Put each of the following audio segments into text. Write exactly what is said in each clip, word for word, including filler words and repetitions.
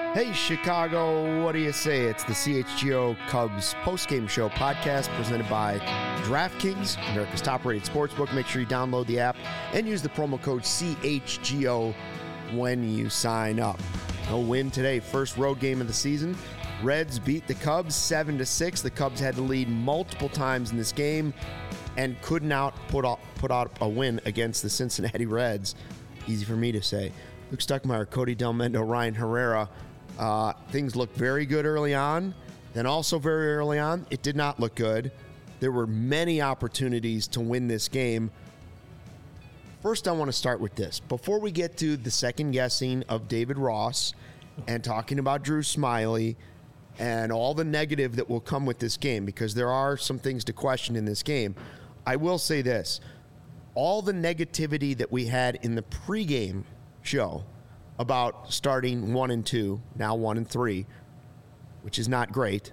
Hey, Chicago, what do you say? It's the C H G O Cubs postgame show podcast presented by DraftKings, America's top-rated sportsbook. Make sure you download the app and use the promo code C H G O when you sign up. No win today. First road game of the season. Reds beat the Cubs seven to six. The Cubs had to lead multiple times in this game and could not put out, put out a win against the Cincinnati Reds. Easy for me to say. Luke Stuckmeyer, Cody Delmendo, Ryan Herrera. Uh, things looked very good early on. Then also very early on, it did not look good. There were many opportunities to win this game. First, I want to start with this. Before we get to the second guessing of David Ross and talking about Drew Smyly and all the negative that will come with this game, because there are some things to question in this game, I will say this. All the negativity that we had in the pregame show about starting one and two, now one and three, which is not great.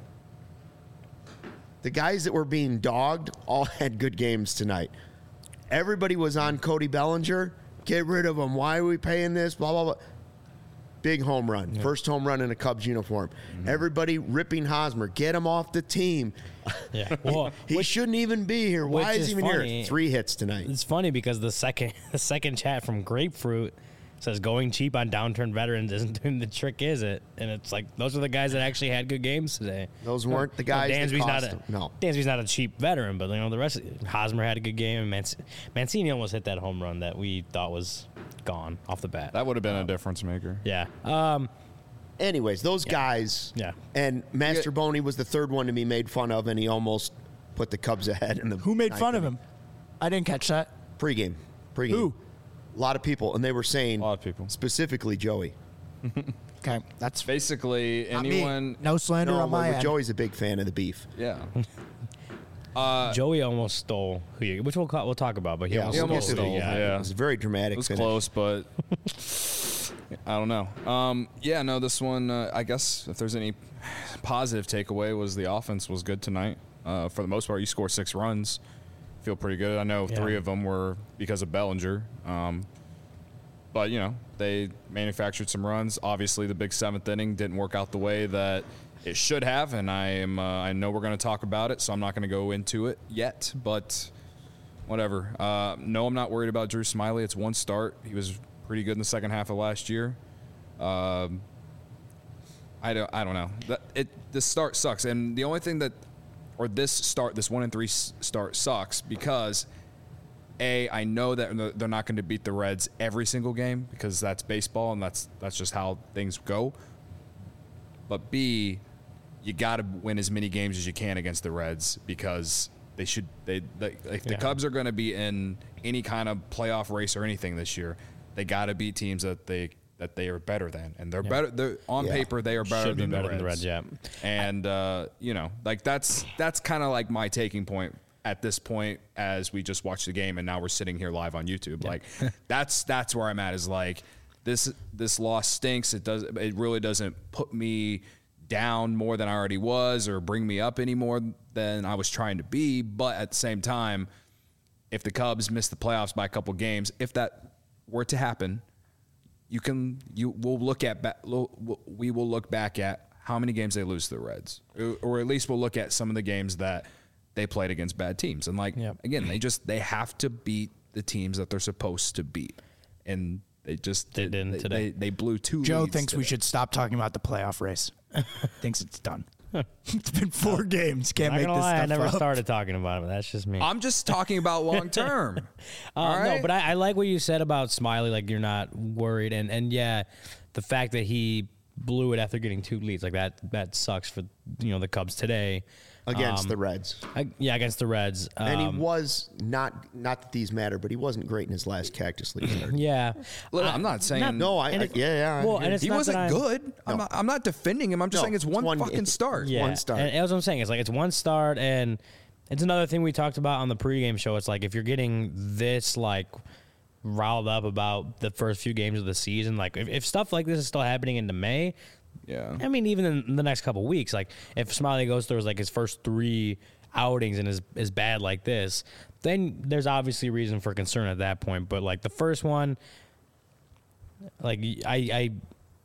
The guys that were being dogged all had good games tonight. Everybody was on Cody Bellinger. Get rid of him. Why are we paying this? Blah, blah, blah. Big home run. Yeah. First home run in a Cubs uniform. Mm-hmm. Everybody ripping Hosmer. Get him off the team. Yeah. Well, he which, shouldn't even be here. Why is he even funny. here? Three hits tonight. It's funny because the second the second chat from Grapefruit says going cheap on downturned veterans isn't doing the trick, is it? And it's like, those are the guys that actually had good games today. Those weren't the guys no, that cost not them. A, no. Dansby's not a cheap veteran, but you know the rest of Hosmer had a good game, and Manc- Mancini almost hit that home run that we thought was gone off the bat. That would have been um, a difference maker. Yeah. Um, Anyways, those yeah. guys. Yeah. And Master Boney was the third one to be made fun of, and he almost put the Cubs ahead in the. Who made fun of him? I didn't catch that. Pre-game. Pre-game. Who? A lot of people, and they were saying, a lot of people, specifically Joey. Okay, that's basically anyone. Me. No slander no, on my end. Joey's a big fan of the beef. Yeah. uh, Joey almost stole, who you, which we'll we'll talk about, but he yeah, almost, he almost stole. stole. Yeah. yeah, it was very dramatic. It was finish. close, but I don't know. Um, yeah, no, this one. Uh, I guess if there's any positive takeaway, was the offense was good tonight. Uh, for the most part, you score six runs. Feel pretty good. I know yeah. three of them were because of Bellinger. Um, but, you know, they manufactured some runs. Obviously, the big seventh inning didn't work out the way that it should have, and I am uh, I know we're going to talk about it, so I'm not going to go into it yet, but whatever. Uh, no, I'm not worried about Drew Smyly. It's one start. He was pretty good in the second half of last year. Um, I don't I don't know. That, it the start sucks, and the only thing that or this start, this one and three start sucks because, A, I know that they're not going to beat the Reds every single game because that's baseball and that's that's just how things go. But B, you got to win as many games as you can against the Reds because they should. They, they if the yeah. Cubs are going to be in any kind of playoff race or anything this year, they got to beat teams that they that they are better than, and they're yeah. better. They're, on yeah. paper, they are better, Should than, be better the than the Reds. Yeah, and uh, you know, like that's that's kind of like my taking point at this point as we just watched the game and now we're sitting here live on YouTube. Yeah. Like that's that's where I'm at. Is like this this loss stinks. It does. It really doesn't put me down more than I already was, or bring me up any more than I was trying to be. But at the same time, if the Cubs miss the playoffs by a couple games, if that were to happen. You can you will look at we will look back at how many games they lose to the Reds, or at least we'll look at some of the games that they played against bad teams. And like yep. again, they just they have to beat the teams that they're supposed to beat, and they just they didn't they, today. They, they blew two. Joe leads thinks today. we should stop talking about the playoff race. Thinks it's done. It's been four games. Can't Not make gonna this lie, stuff I never up. started talking about it. That's just me. I'm just talking about long term. uh, All right? No, but I, I like what you said about Smyly. Like you're not worried, and and yeah, the fact that he blew it after getting two leads like that that sucks for you know the Cubs today. Against um, the Reds. I, yeah, against the Reds. Um, and he was not, not that these matter, but he wasn't great in his last Cactus League start. Yeah. Look, I'm not saying. Not, no, I, I it, yeah, yeah. Well, and it's he not wasn't that good. No. I'm, not, I'm not defending him. I'm just no, saying it's one, one fucking start. Yeah, one start. And that's what I'm saying. It's like it's one start, and it's another thing we talked about on the pregame show. It's like if you're getting this like riled up about the first few games of the season, like if, if stuff like this is still happening into May. Yeah. I mean, even in the next couple of weeks, like if Smyly goes through like his first three outings and is is bad like this, then there's obviously reason for concern at that point. But like the first one, like I I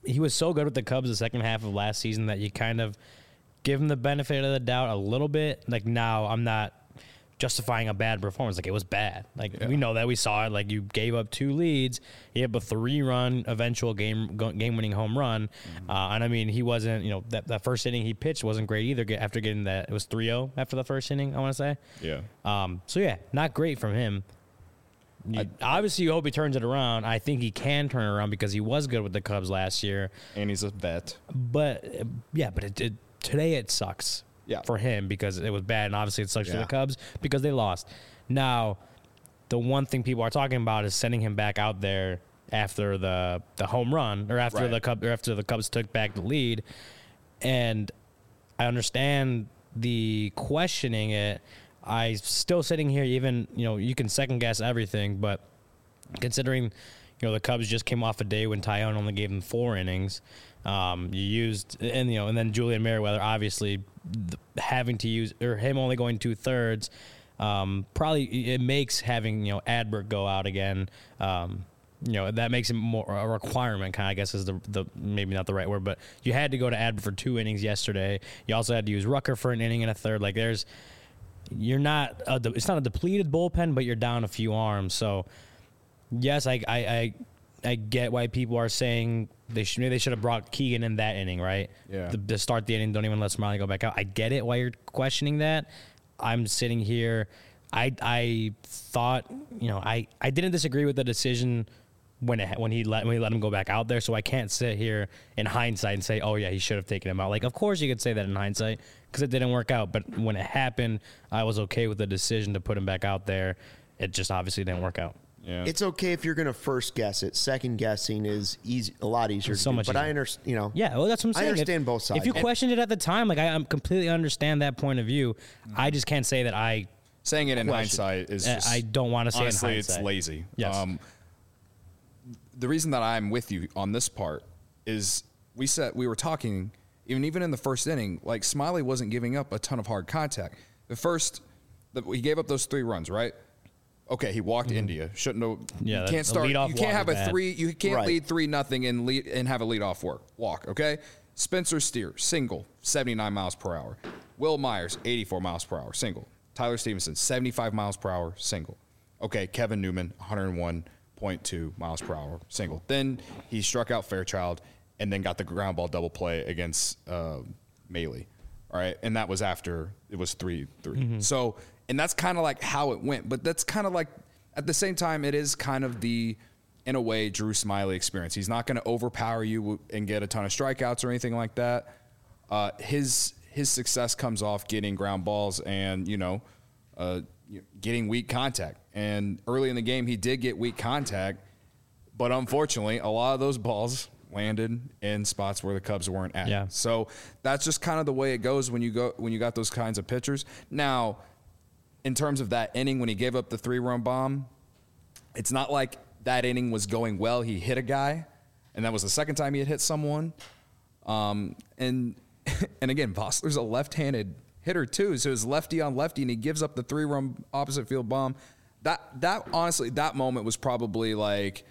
he was so good with the Cubs the second half of last season that you kind of give him the benefit of the doubt a little bit. Like now, I'm not justifying a bad performance. Like it was bad. Like yeah. we know that, we saw it. Like you gave up two leads, you have a three-run eventual game game-winning home run, mm-hmm. uh, and I mean he wasn't. You know that that first inning he pitched wasn't great either. After getting that, it was three oh after the first inning. I want to say. Yeah. Um. So yeah, not great from him. You, I, obviously, you hope he turns it around. I think he can turn it around because he was good with the Cubs last year, and he's a vet. But yeah, but it, it, today it sucks. Yeah. For him because it was bad, and obviously it sucks yeah. for the Cubs because they lost. Now, the one thing people are talking about is sending him back out there after the the home run or after right. the Cubs or after the Cubs took back the lead, and I understand the questioning it. I still sitting here, even you know you can second guess everything, but considering you know the Cubs just came off a day when Taillon only gave them four innings. Um, you used and you know, and then Julian Merriweather obviously th- having to use or him only going two thirds. Um, probably it makes having you know Adbert go out again. Um, you know that makes it more a requirement. Kind of I guess is the the maybe not the right word, but you had to go to Adbert for two innings yesterday. You also had to use Rucker for an inning and a third. Like there's, you're not a, it's not a depleted bullpen, but you're down a few arms. So yes, I I. I I get why people are saying they should maybe they should have brought Keegan in that inning, right? Yeah. The, to start the inning, don't even let Smiley go back out. I get it why you're questioning that. I'm sitting here. I I thought you know I, I didn't disagree with the decision when it, when he let when he let him go back out there. So I can't sit here in hindsight and say, oh yeah, he should have taken him out. Like of course you could say that in hindsight because it didn't work out. But when it happened, I was okay with the decision to put him back out there. It just obviously didn't work out. Yeah. It's okay if you're going to first guess it. Second guessing is easy, a lot easier. It's so to do. much but easier. I understand. You know. Yeah, well, that's what I'm saying. I understand if, both sides. If you questioned it at the time, like I, I completely understand that point of view. Mm-hmm. I just can't say that I. Saying it in hindsight is. Just, I don't want to say honestly, it in hindsight. It's lazy. Yes. Um, the reason that I'm with you on this part is we said we were talking even even in the first inning. Like Smiley wasn't giving up a ton of hard contact. The first, the, he gave up those three runs, right? Okay, he walked mm-hmm. India. Shouldn't have. Yeah, you can't start. You can't have a bad. three. You can't right. lead three nothing and lead and have a lead off work walk. Okay, Spencer Steer single, seventy-nine miles per hour. Will Myers, eighty-four miles per hour single. Tyler Stevenson, seventy-five miles per hour single. Okay, Kevin Newman, one hundred one point two miles per hour single. Then he struck out Fairchild and then got the ground ball double play against uh, Maley. All right, and that was after it was three three. Mm-hmm. So. And that's kind of like how it went. But that's kind of like, at the same time, it is kind of the, in a way, Drew Smiley experience. He's not going to overpower you and get a ton of strikeouts or anything like that. Uh, his his success comes off getting ground balls and, you know, uh, getting weak contact. And early in the game, he did get weak contact. But unfortunately, a lot of those balls landed in spots where the Cubs weren't at. Yeah. So that's just kind of the way it goes when you go when you got those kinds of pitchers. Now, in terms of that inning when he gave up the three-run bomb, it's not like that inning was going well. He hit a guy, and that was the second time he had hit someone. Um, and and again, Vossler's a left-handed hitter too, so it's lefty on lefty, and he gives up the three-run opposite field bomb. That that honestly, that moment was probably like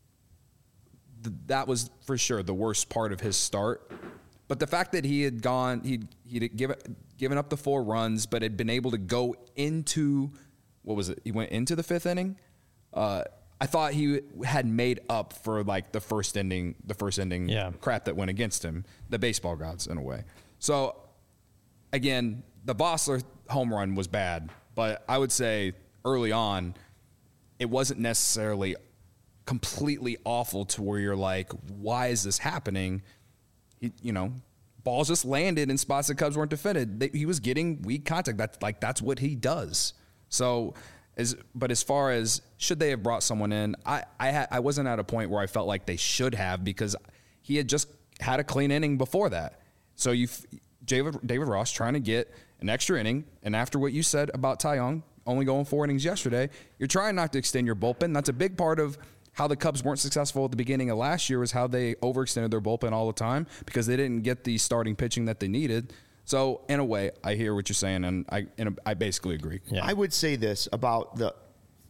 th- that was for sure the worst part of his start. But the fact that he had gone, he'd, he'd given, given up the four runs, but had been able to go into, what was it? He went into the fifth inning. Uh, I thought he had made up for like the first inning, the first inning yeah. crap that went against him, the baseball gods in a way. So again, the Vossler home run was bad, but I would say early on, it wasn't necessarily completely awful to where you're like, why is this happening? He, you know, balls just landed in spots that Cubs weren't defended. They, he was getting weak contact. That's like that's what he does. So, as but as far as should they have brought someone in, I I, ha, I wasn't at a point where I felt like they should have because he had just had a clean inning before that. So you, David David Ross trying to get an extra inning, and after what you said about Taillon only going four innings yesterday, you're trying not to extend your bullpen. That's a big part of how the Cubs weren't successful at the beginning of last year was how they overextended their bullpen all the time because they didn't get the starting pitching that they needed. So in a way, I hear what you're saying, and I in a, I basically agree. Yeah. I would say this about the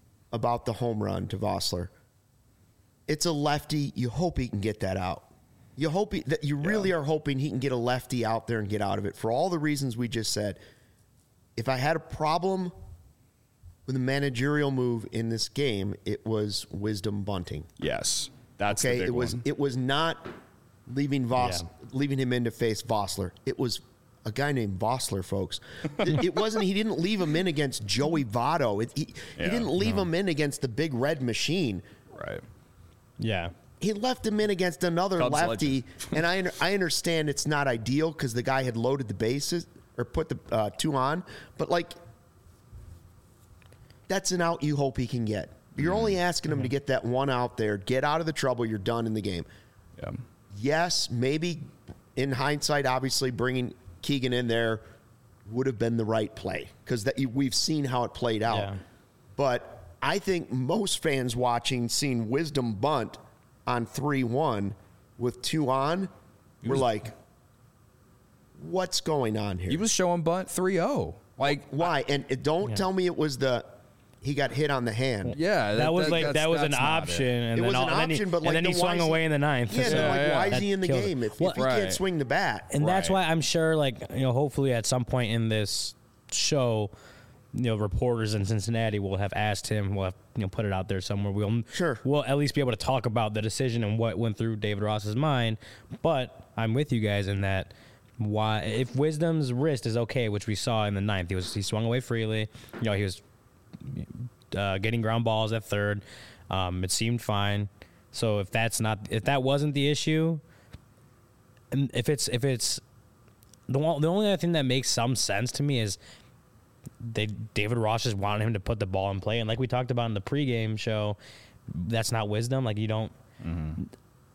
about the home run to Vossler. It's a lefty. You hope he can get that out. You hope he, that you really yeah. are hoping he can get a lefty out there and get out of it for all the reasons we just said. If I had a problem with a managerial move in this game, it was Wisdom bunting. Yes, that's okay. The big it was one. it was not leaving Voss, Yeah. leaving him in to face Vossler. It was a guy named Vossler, folks. it, it wasn't. He didn't leave him in against Joey Votto. It, he, Yeah, he didn't leave no. him in against the big red machine. Right. Yeah. He left him in against another Cubs lefty, and I I understand it's not ideal because the guy had loaded the bases or put the uh, two on, but like that's an out you hope he can get. You're mm-hmm. only asking him mm-hmm. to get that one out there, get out of the trouble, you're done in the game. Yeah. Yes, maybe in hindsight, obviously bringing Keegan in there would have been the right play because that we've seen how it played out. Yeah. But I think most fans watching, seeing Wisdom bunt on three one with two on, we're like, what's going on here? He was showing bunt three oh. Like, why? And it, don't Yeah. tell me it was the he got hit on the hand. yeah, That, that, was that, like that's- that was an that's not option, it. and It then was all, an and then he, option, but, and like, then he then swung why is away he- in the ninth. Yeah, so then, like, yeah, why that is he in the killed it. game if, Well, if he right. can't swing the bat? And that's Right. why I'm sure, like, you know, hopefully at some point in this show, you know, reporters in Cincinnati will have asked him, we'll have, you know, put it out there somewhere. We'll, Sure. we'll at least be able to talk about the decision and what went through David Ross's mind. But I'm with you guys in that why, if Wisdom's wrist is okay, which we saw in the ninth, he was he swung away freely. You know, he was uh, getting ground balls at third. Um, it seemed fine. So if that's not, if that wasn't the issue, and if it's if it's the one, the only other thing that makes some sense to me is they David Ross just wanted him to put the ball in play, and like we talked about in the pregame show, that's not Wisdom. Like you don't. Mm-hmm.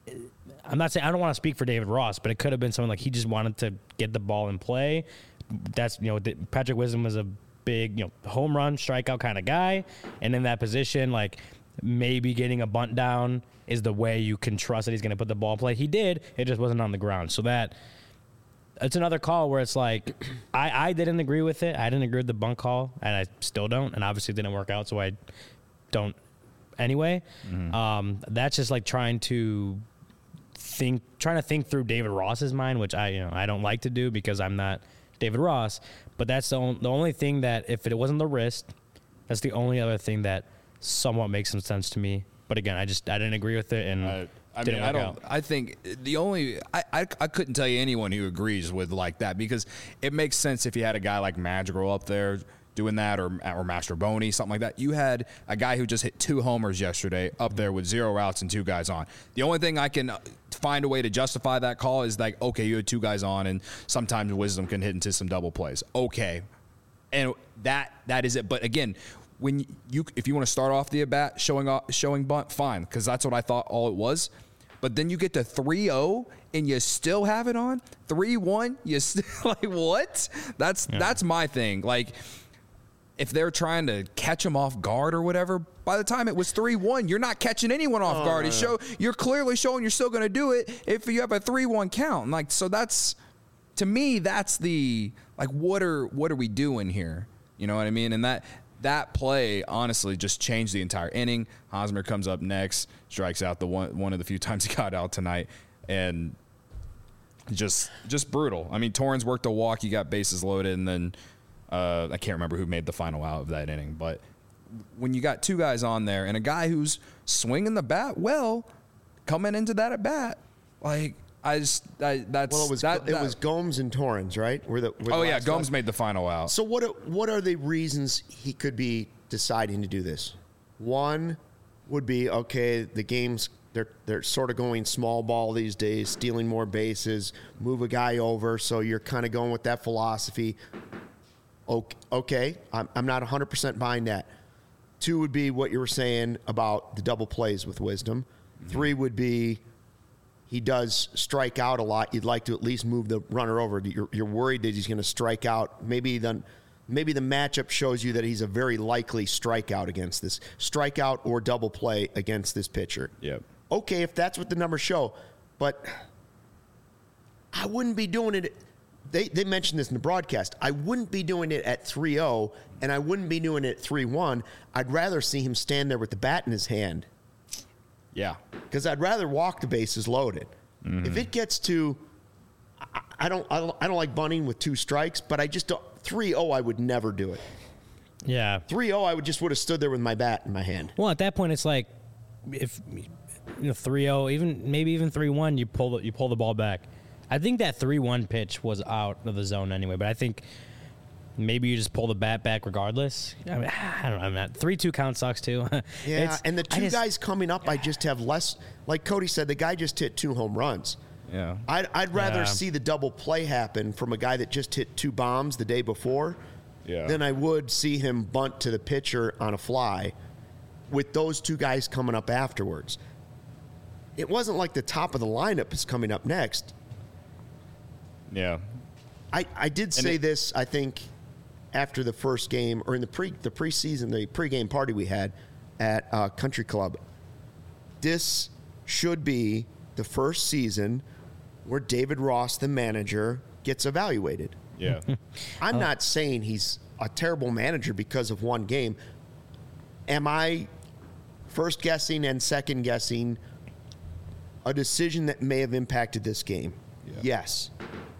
I'm not saying I don't want to speak for David Ross, but it could have been something like he just wanted to get the ball in play. That's you know Patrick Wisdom was a big you know home run strikeout kind of guy, and in that position, like maybe getting a bunt down is the way you can trust that he's going to put the ball in play. He did, it just wasn't on the ground. So that it's another call where it's like I, I didn't agree with it. I didn't agree with the bunt call, and I still don't. And obviously, it didn't work out, so I don't anyway. Mm-hmm. Um, that's just like trying to. Think trying to think through David Ross's mind, which I you know I don't like to do because I'm not David Ross. But that's the only, the only thing that if it wasn't the wrist, that's the only other thing that somewhat makes some sense to me. But again, I just I didn't agree with it and I, I didn't mean, I work don't. out. I think the only I, I I couldn't tell you anyone who agrees with like that because it makes sense if you had a guy like Madrigal up there doing that or or Mastroboni, something like that. You had a guy who just hit two homers yesterday up there with zero outs and two guys on. The only thing I can find a way to justify that call is like, okay, you had two guys on, and sometimes Wisdom can hit into some double plays. Okay, and that that is it. But again, when you if you want to start off the at bat showing off, showing bunt, fine, because that's what I thought all it was. But then you get to three oh and you still have it on three one. You still like what? That's yeah. that's my thing. Like. If they're trying to catch him off guard or whatever, by the time it was three one, you're not catching anyone off oh, guard. No, You no. show you're clearly showing you're still going to do it if you have a three one count. And like so that's to me that's the like what are what are we doing here? You know what I mean? And that that play honestly just changed the entire inning. Hosmer comes up next, strikes out the one one of the few times he got out tonight, and just just brutal. I mean, Torrens worked a walk, he got bases loaded, and then. Uh, I can't remember who made the final out of that inning, but when you got two guys on there and a guy who's swinging the bat well, coming into that at bat, like I just I, that's Well, it was that, it that, was Gomes and Torrens, right? Were the, were the oh yeah, last Gomes guys? made the final out. So what are, what are the reasons he could be deciding to do this? One would be okay, the game's they're they're sort of going small ball these days, stealing more bases, move a guy over, so you're kind of going with that philosophy. Okay, I'm, I'm not one hundred percent buying that. Two would be what you were saying about the double plays with Wisdom. Mm-hmm. Three would be he does strike out a lot. You'd like to at least move the runner over. You're, you're worried that he's going to strike out. Maybe then, maybe the matchup shows you that he's a very likely strikeout against this strikeout or double play against this pitcher. Yep. Okay, if that's what the numbers show, but I wouldn't be doing it. They they mentioned this in the broadcast. I wouldn't be doing it at three oh, and I wouldn't be doing it at three one. I'd rather see him stand there with the bat in his hand. Yeah. Because I'd rather walk the bases loaded. Mm-hmm. If it gets to, I, I don't, I don't, I don't like bunting with two strikes, but I just don't. three oh, I would never do it. Yeah. three oh, I would just would have stood there with my bat in my hand. Well, at that point, it's like if you know three oh, even maybe even three one, you pull the, you pull the ball back. I think that three one pitch was out of the zone anyway, but I think maybe you just pull the bat back regardless. I, mean, I don't know. three two count sucks too. Yeah, It's- and the I two just- guys coming up, I just have less. Like Cody said, the guy just hit two home runs. Yeah. I'd, I'd rather Yeah. see the double play happen from a guy that just hit two bombs the day before Yeah. than I would see him bunt to the pitcher on a fly with those two guys coming up afterwards. It wasn't like the top of the lineup is coming up next. Yeah. I, I did say it- this, I think, after the first game or in the pre the preseason, the pregame party we had at uh, Country Club. This should be the first season where David Ross, the manager, gets evaluated. Yeah. I'm not saying he's a terrible manager because of one game. Am I first guessing and second guessing a decision that may have impacted this game? Yeah. Yes.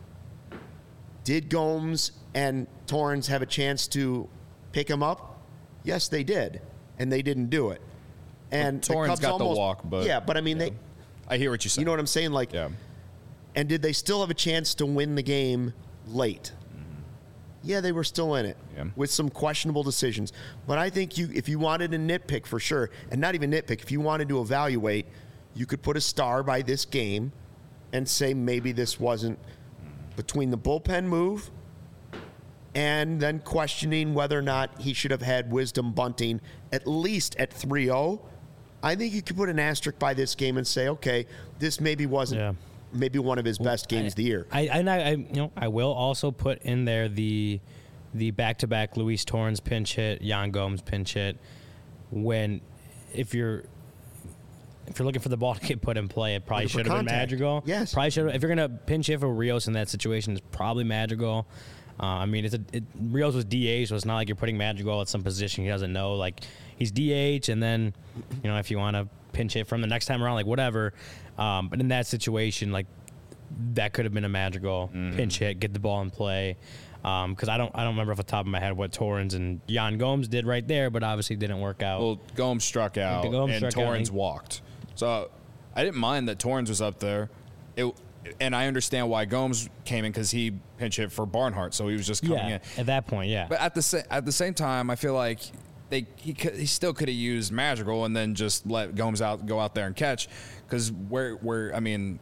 Did Gomes and Torrens have a chance to pick him up? Yes, they did, and they didn't do it. And the Torrens Cubs got the almost- walk, but yeah, but I mean, yeah. they. I hear what you say. You know what I'm saying? Like, Yeah. and did they still have a chance to win the game late? Yeah, they were still in it Yeah. with some questionable decisions. But I think you, if you wanted to nitpick for sure, and not even nitpick, if you wanted to evaluate, you could put a star by this game and say maybe this wasn't between the bullpen move and then questioning whether or not he should have had wisdom bunting at least at three oh. I think you could put an asterisk by this game and say, okay, this maybe wasn't Yeah. maybe one of his best games of the year. I, and I, I, you know, I will also put in there the the back-to-back Luis Torrens pinch hit, Yan Gomes pinch hit. When if you're if you're looking for the ball to get put in play, it probably Looking for should have been contact. Madrigal. Yes. Probably should. If you're gonna pinch hit for Rios in that situation, it's probably Madrigal. Uh, I mean, it's a it, Rios was D H, so it's not like you're putting Madrigal at some position he doesn't know. Like he's D H, and then you know if you want to pinch hit from the next time around, like whatever. Um, but in that situation, like that could have been a Madrigal pinch hit, get the ball in play. Because I don't, I don't remember off the top of my head what Torrens and Yan Gomes did right there, but obviously didn't work out. Well, Gomes struck out Gomes and struck out, Torrens he- walked. So I didn't mind that Torrens was up there. It, and I understand why Gomes came in because he pinch hit for Barnhart, so he was just coming yeah, in. at that point, yeah. But at the sa- at the same time, I feel like they he could, he still could have used Madrigal and then just let Gomes out go out there and catch because where where I mean.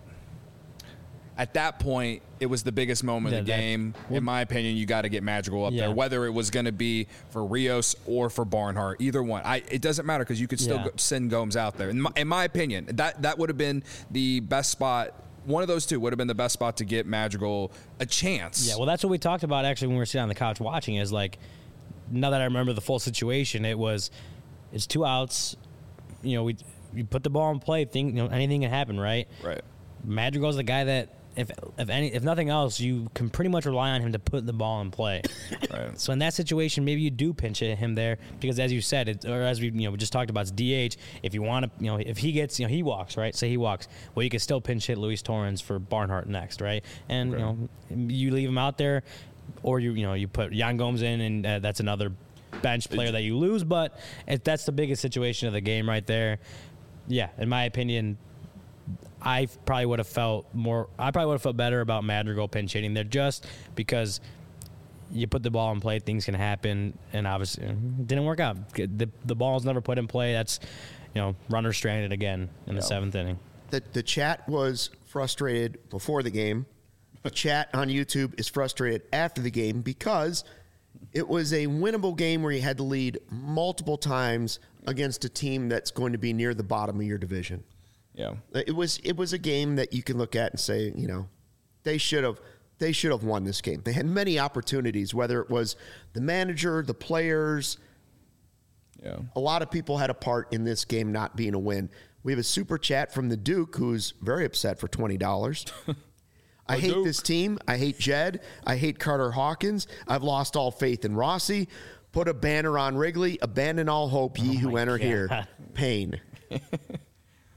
At that point, it was the biggest moment Yeah, of the that- game. In my opinion, you got to get Madrigal up Yeah. there, whether it was going to be for Rios or for Barnhart. Either one, I, it doesn't matter because you could still Yeah. go, send Gomes out there. In my, in my opinion, that that would have been the best spot. One of those two would have been the best spot to get Madrigal a chance. Yeah, well, that's what we talked about actually when we were sitting on the couch watching. Is like, now that I remember the full situation, it was, it's two outs. You know, we you put the ball in play. Think you know anything can happen, right? right. Madrigal's the guy that if if any if nothing else, you can pretty much rely on him to put the ball in play. Right. So in that situation, maybe you do pinch hit him there because, as you said, it, or as we you know we just talked about, it's D H. If you want to, you know, if he gets, you know, he walks, right? Say he walks. Well, you can still pinch hit Luis Torrens for Barnhart next, right? And you know, you leave him out there, or you you know you put Yan Gomes in, and uh, that's another bench player that you lose. But if that's the biggest situation of the game right there, yeah, in my opinion. I probably would have felt more. I probably would have felt better about Madrigal pinch hitting there, just because you put the ball in play, things can happen, and obviously it didn't work out. The the ball's never put in play. That's you know runner stranded again in the seventh inning. The, the chat was frustrated before the game. The chat on YouTube is frustrated after the game because it was a winnable game where you had to lead multiple times against a team that's going to be near the bottom of your division. Yeah. It was it was a game that you can look at and say, you know, they should have they should have won this game. They had many opportunities, whether it was the manager, the players. Yeah. A lot of people had a part in this game not being a win. We have a super chat from the Duke who's very upset for twenty dollars. I hate Duke. this team. I hate Jed. I hate Carter Hawkins. I've lost all faith in Rossi. Put a banner on Wrigley. Abandon all hope, ye Oh who my enter God. here. Pain.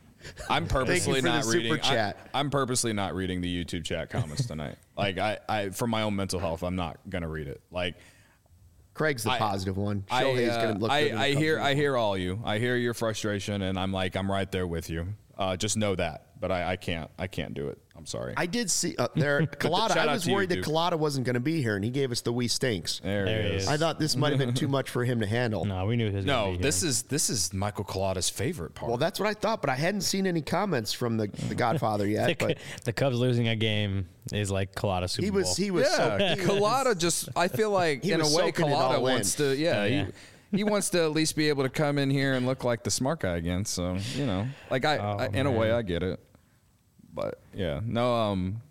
I'm purposely for the not super reading. chat. I, I'm purposely not reading the YouTube chat comments tonight. Like I, I, for my own mental health, I'm not gonna read it. Like Craig's the I- positive one. I, Shohei's uh, going to look I, good in the I Cubs hear, I uniform. hear all you. I hear your frustration, and I'm like, I'm right there with you. Uh, just know that. But I, I can't, I can't do it. I'm sorry. I did see uh, there. Collada. Shout I out was to you, worried that Duke. Collada wasn't going to be here, and he gave us the "we stinks." there, There it he is. is. I thought this might have been too much for him to handle. No, we knew he was gonna No, be here. this is this is Michael Collada's favorite part. Well, that's what I thought, but I hadn't seen any comments from the, the Godfather yet. the, But the Cubs losing a game is like Colada Super he Bowl. was he was yeah, so he was- Collada just. I feel like He in a was way, soaking it Collada all in. wants to. Yeah, Oh, yeah. He, he wants to at least be able to come in here and look like the smart guy again. So you know, like I, Oh, I in a way, man. I get it. But yeah, no. Um,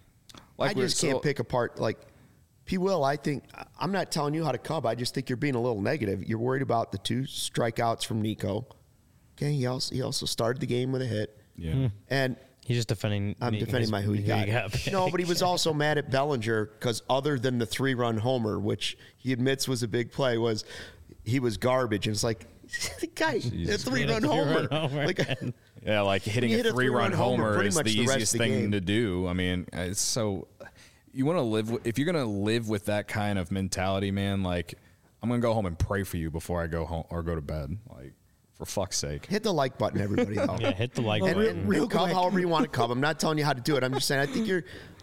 like I we were- just can't so- pick apart like P. Will. I think I'm not telling you how to Cub. I just think you're being a little negative. You're worried about the two strikeouts from Nico. Okay, he also he also started the game with a hit, Yeah. and He's just defending. I'm his- defending my who you who got. pick. No, but he was also mad at Bellinger because other than the three-run homer, which he admits was a big play, was he was garbage. And it's like, the guy, a Jesus. three-run Yeah, homer. three-run homer. Like, Yeah, like hitting you a hit a three-run three-run homer homer pretty is much the the rest easiest of the thing game. to do. I mean, it's so you want to live with, if you're gonna live with that kind of mentality, man. Like, I'm gonna go home and pray for you before I go home or go to bed. Like, for fuck's sake. hit the like button, everybody. Though. Yeah, hit the like And, button. and real Cub quick. however you want to Cub. I'm not telling you how to do it. I'm just saying I think you're.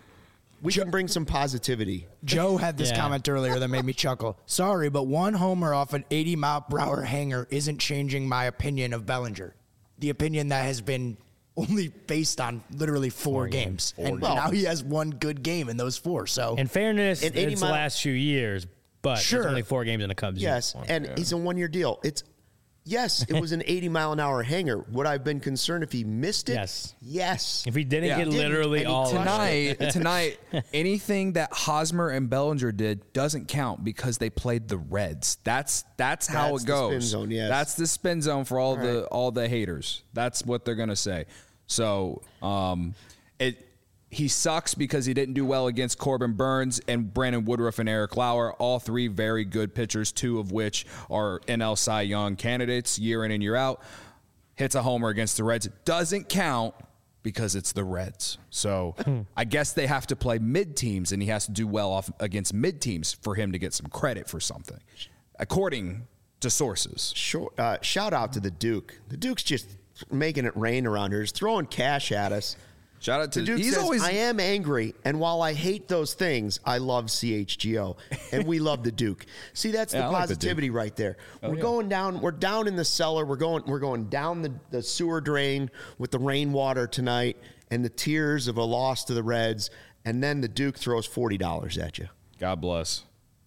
We can bring some positivity. Joe had this Yeah. comment earlier that made me chuckle. Sorry, but one homer off an eighty mile per hour hanger isn't changing my opinion of Bellinger. The opinion that has been only based on literally four, Four games. games. And Well- now he has one good game in those four. So In fairness, In eighty it's the mile- last few years, but Sure. it's only four games in a Cubs Yes, uniform. and he's a one-year deal. It's yes, it was an eighty mile an hour hanger. Would I have been concerned if he missed it? Yes. Yes. If he didn't Yeah. get Didn't, literally and he all of crushed it. Tonight, tonight, anything that Hosmer and Bellinger did doesn't count because they played the Reds. That's that's how That's it the goes. spin zone, yes. That's the spin zone for all, the right. all the haters. That's what they're gonna say. So, um, it he sucks because he didn't do well against Corbin Burns and Brandon Woodruff and Eric Lauer, all three very good pitchers, two of which are N L Cy Young candidates year in and year out. Hits a homer against the Reds. Doesn't count because it's the Reds. So I guess they have to play mid teams, and he has to do well off against mid teams for him to get some credit for something, according to sources. Sure. Uh, shout out to the Duke. The Duke's just making it rain around here. He's throwing cash at us. Shout out to The Duke he's says, always I am angry, and while I hate those things, I love C H G O, and we love the Duke. See, that's Yeah, the I like the Duke. positivity right there. we're yeah. going down. We're down in the cellar. We're going. We're going down the, the sewer drain with the rainwater tonight, and the tears of a loss to the Reds, and then the Duke throws forty dollars at you. God bless.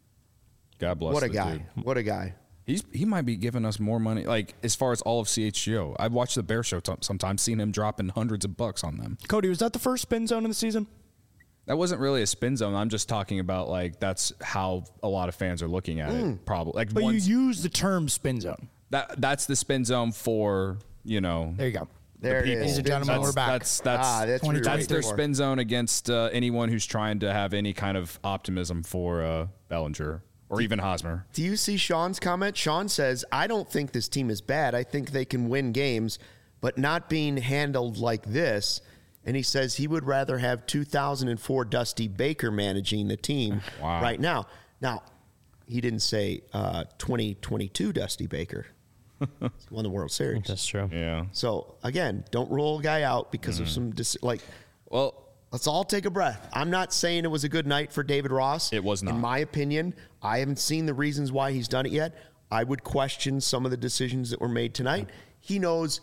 God bless. What a the guy! dude. What a guy! He's he might be giving us more money, like as far as all of C H G O. I've watched the Bear Show t- sometimes, seen him dropping hundreds of bucks on them. Cody, was that the first spin zone of the season? That wasn't really a spin zone. I'm just talking about like that's how a lot of fans are looking at it. Probably like But once, you use the term spin zone. that that's the spin zone for you know. There you go. There it people. is. Ladies and gentlemen, That's we're back. that's that's Ah, that's what we were that's their waiting for. spin zone against uh, anyone who's trying to have any kind of optimism for uh, Bellinger or even Hosmer. Do you see Sean's comment? Sean says, I don't think this team is bad. I think they can win games, but not being handled like this. And he says he would rather have two thousand four Dusty Baker managing the team Wow. right now. Now, he didn't say uh, twenty twenty-two Dusty Baker. He won the World Series. That's true. Yeah. So, again, don't rule a guy out because of some, dis- like, Well, let's all take a breath. I'm not saying it was a good night for David Ross. It was not. In my opinion, I haven't seen the reasons why he's done it yet. I would question some of the decisions that were made tonight. He knows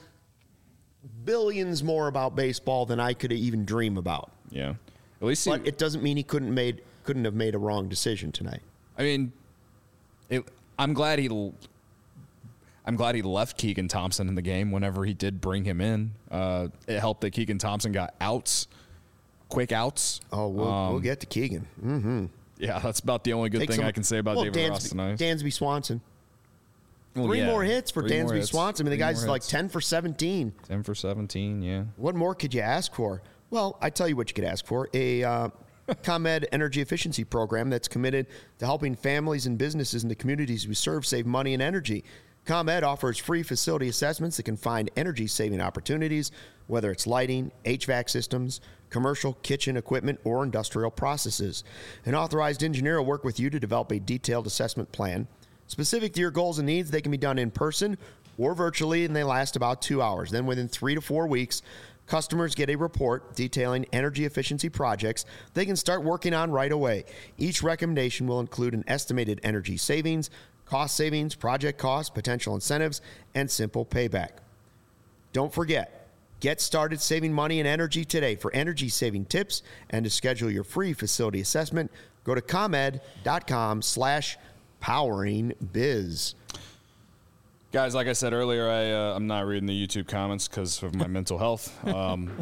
billions more about baseball than I could even dream about. yeah. At least he, But it doesn't mean he couldn't made couldn't have made a wrong decision tonight. I mean, it, I'm glad he. l- I'm glad he left Keegan Thompson in the game whenever he did bring him in. Uh, it helped that Keegan Thompson got outs, quick outs. Oh, we'll, Um, we'll get to Keegan. Mm-hmm. Yeah, that's about the only good Take thing some- I can say about well, David Ross Dansby, tonight. Dansby Swanson. Well, Three yeah, more hits for three more Dansby hits. Swanson. I mean, the Three guy's more like hits. ten for seventeen. ten for seventeen, yeah. What more could you ask for? Well, I tell you what you could ask for. A uh, ComEd energy efficiency program that's committed to helping families and businesses in the communities we serve save money and energy. ComEd offers free facility assessments that can find energy-saving opportunities, whether it's lighting, H V A C systems, commercial kitchen equipment, or industrial processes. An authorized engineer will work with you to develop a detailed assessment plan. Specific to your goals and needs, they can be done in person or virtually, and they last about two hours. Then within three to four weeks, customers get a report detailing energy efficiency projects they can start working on right away. Each recommendation will include an estimated energy savings, cost savings, project costs, potential incentives, and simple payback. Don't forget, get started saving money and energy today. For energy-saving tips and to schedule your free facility assessment, go to ComEd.com slash powering biz. Guys, like I said earlier, I, uh, I'm not reading the YouTube comments because of my mental health. Um,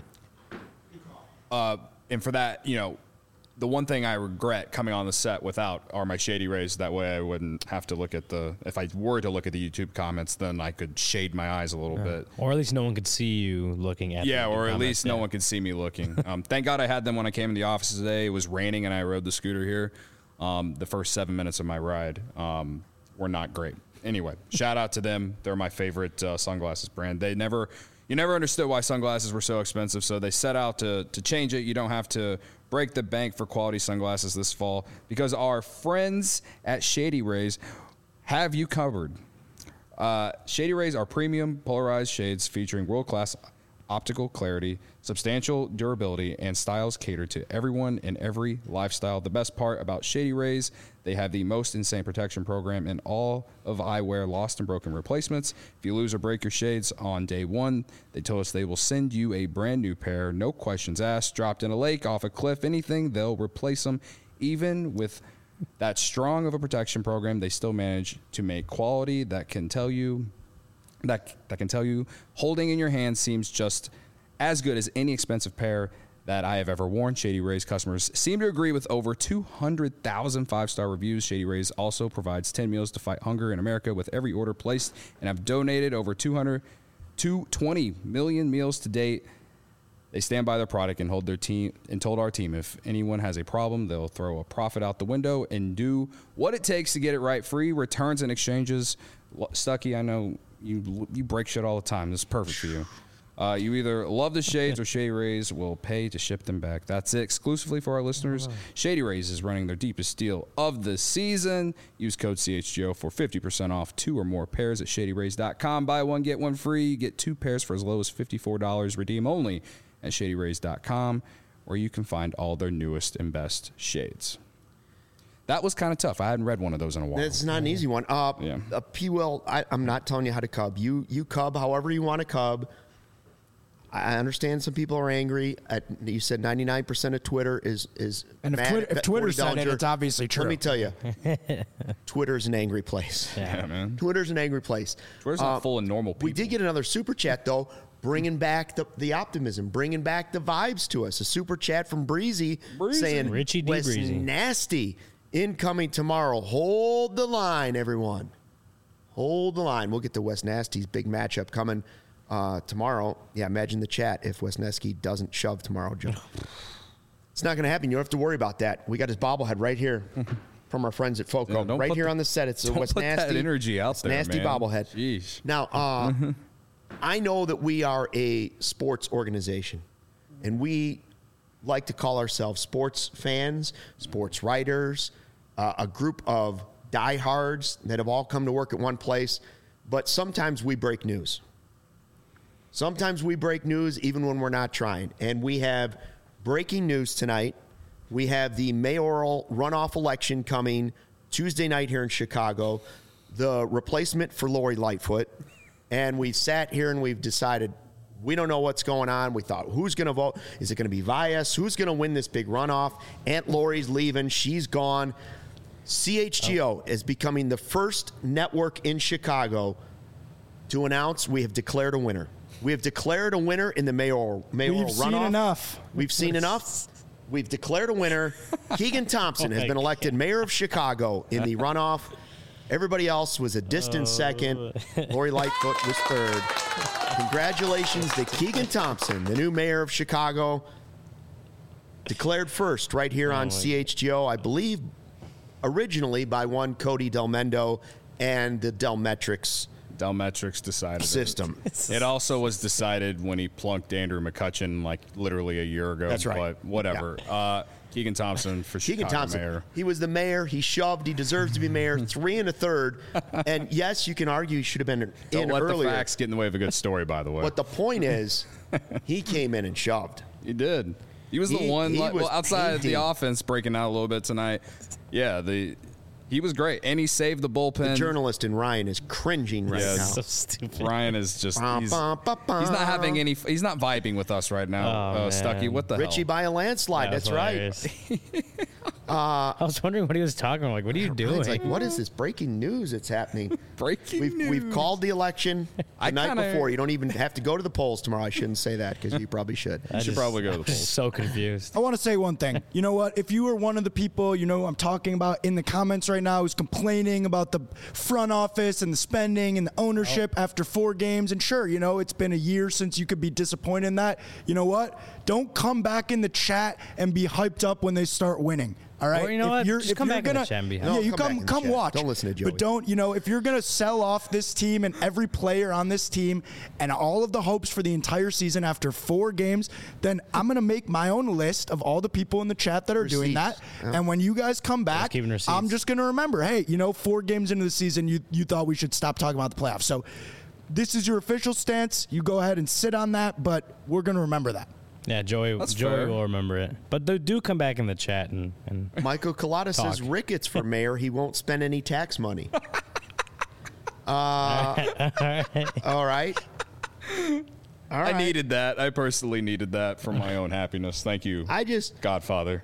uh, and for that, you know, the one thing I regret coming on the set without are my Shady Rays. That way I wouldn't have to look at the, if I were to look at the YouTube comments, then I could shade my eyes a little Yeah. bit. Or at least no one could see you looking at Yeah, the or at comments. least no Yeah. one could see me looking. Um, thank God I had them when I came in the office today. It was raining and I rode the scooter here. Um, the first seven minutes of my ride um, were not great. Anyway, shout out to them. They're my favorite uh, sunglasses brand. They never, you never understood why sunglasses were so expensive, so they set out to to change it. You don't have to break the bank for quality sunglasses this fall because our friends at Shady Rays have you covered. Uh, Shady Rays are premium polarized shades featuring world-class optical clarity, substantial durability, and styles catered to everyone in every lifestyle. The best part about Shady Rays, they have the most insane protection program in all of eyewear lost and broken replacements. If you lose or break your shades on day one, they told us they will send you a brand new pair, no questions asked, dropped in a lake, off a cliff, anything, they'll replace them. Even with that strong of a protection program, they still manage to make quality that can tell you That, that can tell you holding in your hand seems just as good as any expensive pair that I have ever worn. Shady Rays customers seem to agree with over two hundred thousand five-star reviews. Shady Rays also provides ten meals to fight hunger in America with every order placed and have donated over two hundred to twenty million meals to date. They stand by their product and hold their team and told our team if anyone has a problem, they'll throw a profit out the window and do what it takes to get it right. Free returns and exchanges. Stucky, I know you you break shit all the time. This is perfect for you. Uh, you either love the shades or Shady Rays will pay to ship them back. That's it. Exclusively for our listeners. Shady Rays is running their deepest deal of the season. Use code C H G O for fifty percent off two or more pairs at shady rays dot com. Buy one, get one free. You get two pairs for as low as fifty-four dollars. Redeem only at shady rays dot com, where you can find all their newest and best shades. That was kind of tough. I hadn't read one of those in a while. It's not an easy one. Uh, Yeah. uh, P. Will, I, I'm not telling you how to cub. You you cub however you want to cub. I understand some people are angry. At, you said ninety-nine percent of Twitter is is And if, mad Twitter, at if Twitter Corey said it, Bellinger. it's obviously true. Let me tell you, Twitter's an angry place. Yeah, man. Twitter's an angry place. Twitter's not Uh, full of normal people. We did get another super chat though, bringing back the, the optimism, bringing back the vibes to us. A super chat from Breezy, Breezy. saying, Richie D. Wes Breezy. Nasty incoming tomorrow. Hold the line, everyone. Hold the line. We'll get to Wes Nasty's big matchup coming uh, tomorrow. Yeah, imagine the chat if Wes Nasty doesn't shove tomorrow, Joe. It's not going to happen. You don't have to worry about that. We got his bobblehead right here from our friends at Foco. Yeah, don't right put here the- on the set. It's a don't Wes put that Nasty energy out Wes there, Nasty man. bobblehead. Jeez. Now, uh, I know that we are a sports organization, and we like to call ourselves sports fans, sports writers, uh, a group of diehards that have all come to work at one place. But sometimes we break news. Sometimes we break news even when we're not trying. And we have breaking news tonight. We have the mayoral runoff election coming Tuesday night here in Chicago, the replacement for Lori Lightfoot. And we've sat here and we've decided we don't know what's going on. We thought, who's going to vote? Is it going to be Vias? Who's going to win this big runoff? Aunt Lori's leaving. She's gone. C H G O is becoming the first network in Chicago to announce we have declared a winner. We have declared a winner in the mayoral, mayoral We've runoff. seen enough. We've seen enough. We've declared a winner. Keegan Thompson Oh has my been elected mayor of Chicago in the runoff. Everybody else was a distant second. Lori Lightfoot was third. Congratulations to Keegan Thompson, the new mayor of Chicago. Declared first right here on C H G O, I believe originally by one Cody Del Mendo and the Delmetrics Delmetrics decided System. It. It also was decided when he plunked Andrew McCutcheon like literally a year ago. That's right. But whatever. Yeah. Uh, Keegan Thompson for Keegan Chicago Thompson. mayor. He was the mayor. He shoved. He deserves to be mayor. Three and a third. And yes, you can argue he should have been Don't in let earlier. the facts get in the way of a good story, by the way. But the point is, he came in and shoved. He did. He was He- the one he like, was well, outside of the painting. offense breaking out a little bit tonight. Yeah, the he was great, and he saved the bullpen. The journalist in Ryan is cringing right Yeah, now. So stupid. Ryan is just Bum, he's, bum, bum, bum. he's not having any. He's not vibing with us right now. Oh, uh, man. Stucky, what the Richie hell? by a landslide. That was That's right. hilarious. I was wondering what he was talking about. Like, what are you doing? Ryan's like, what is this breaking news that's happening? Breaking We've, news. we've called the election the I night kinda- before. You don't even have to go to the polls tomorrow. I shouldn't say that because you probably should. You should probably go to the polls. So confused. I want to say one thing. You know what? If you were one of the people, you know, I'm talking about in the comments right now who's complaining about the front office and the spending and the ownership after four games, and sure, you know, it's been a year since you could be disappointed in that. You know what? Don't come back in the chat and be hyped up when they start winning. All right. Or you know if what? You're, Just if come you're back in the gonna, chat and be yeah, No, you come come, back in the come chat. watch. Don't listen to Joey. But don't, you know, if you're gonna sell off this team and every player on this team and all of the hopes for the entire season after four games, then I'm gonna make my own list of all the people in the chat that are doing Receipts. that. And when you guys come back, keeping receipts. I'm just gonna remember, hey, you know, four games into the season, you you thought we should stop talking about the playoffs. So this is your official stance. You go ahead and sit on that, but we're gonna remember that. Yeah, Joey. That's Joey fair. will remember it. But do, do come back in the chat and, and Michael Collada says Talk. Ricketts for mayor. He won't spend any tax money. Uh, all right. All right. I needed that. I personally needed that for my own happiness. Thank you, I just Godfather.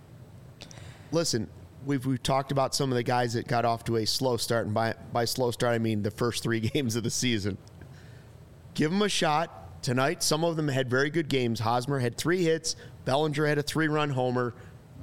listen. We've we've talked about some of the guys that got off to a slow start, and by by slow start I mean the first three games of the season. Give them a shot tonight. Some of them had very good games. Hosmer had three hits. Bellinger had a three-run homer.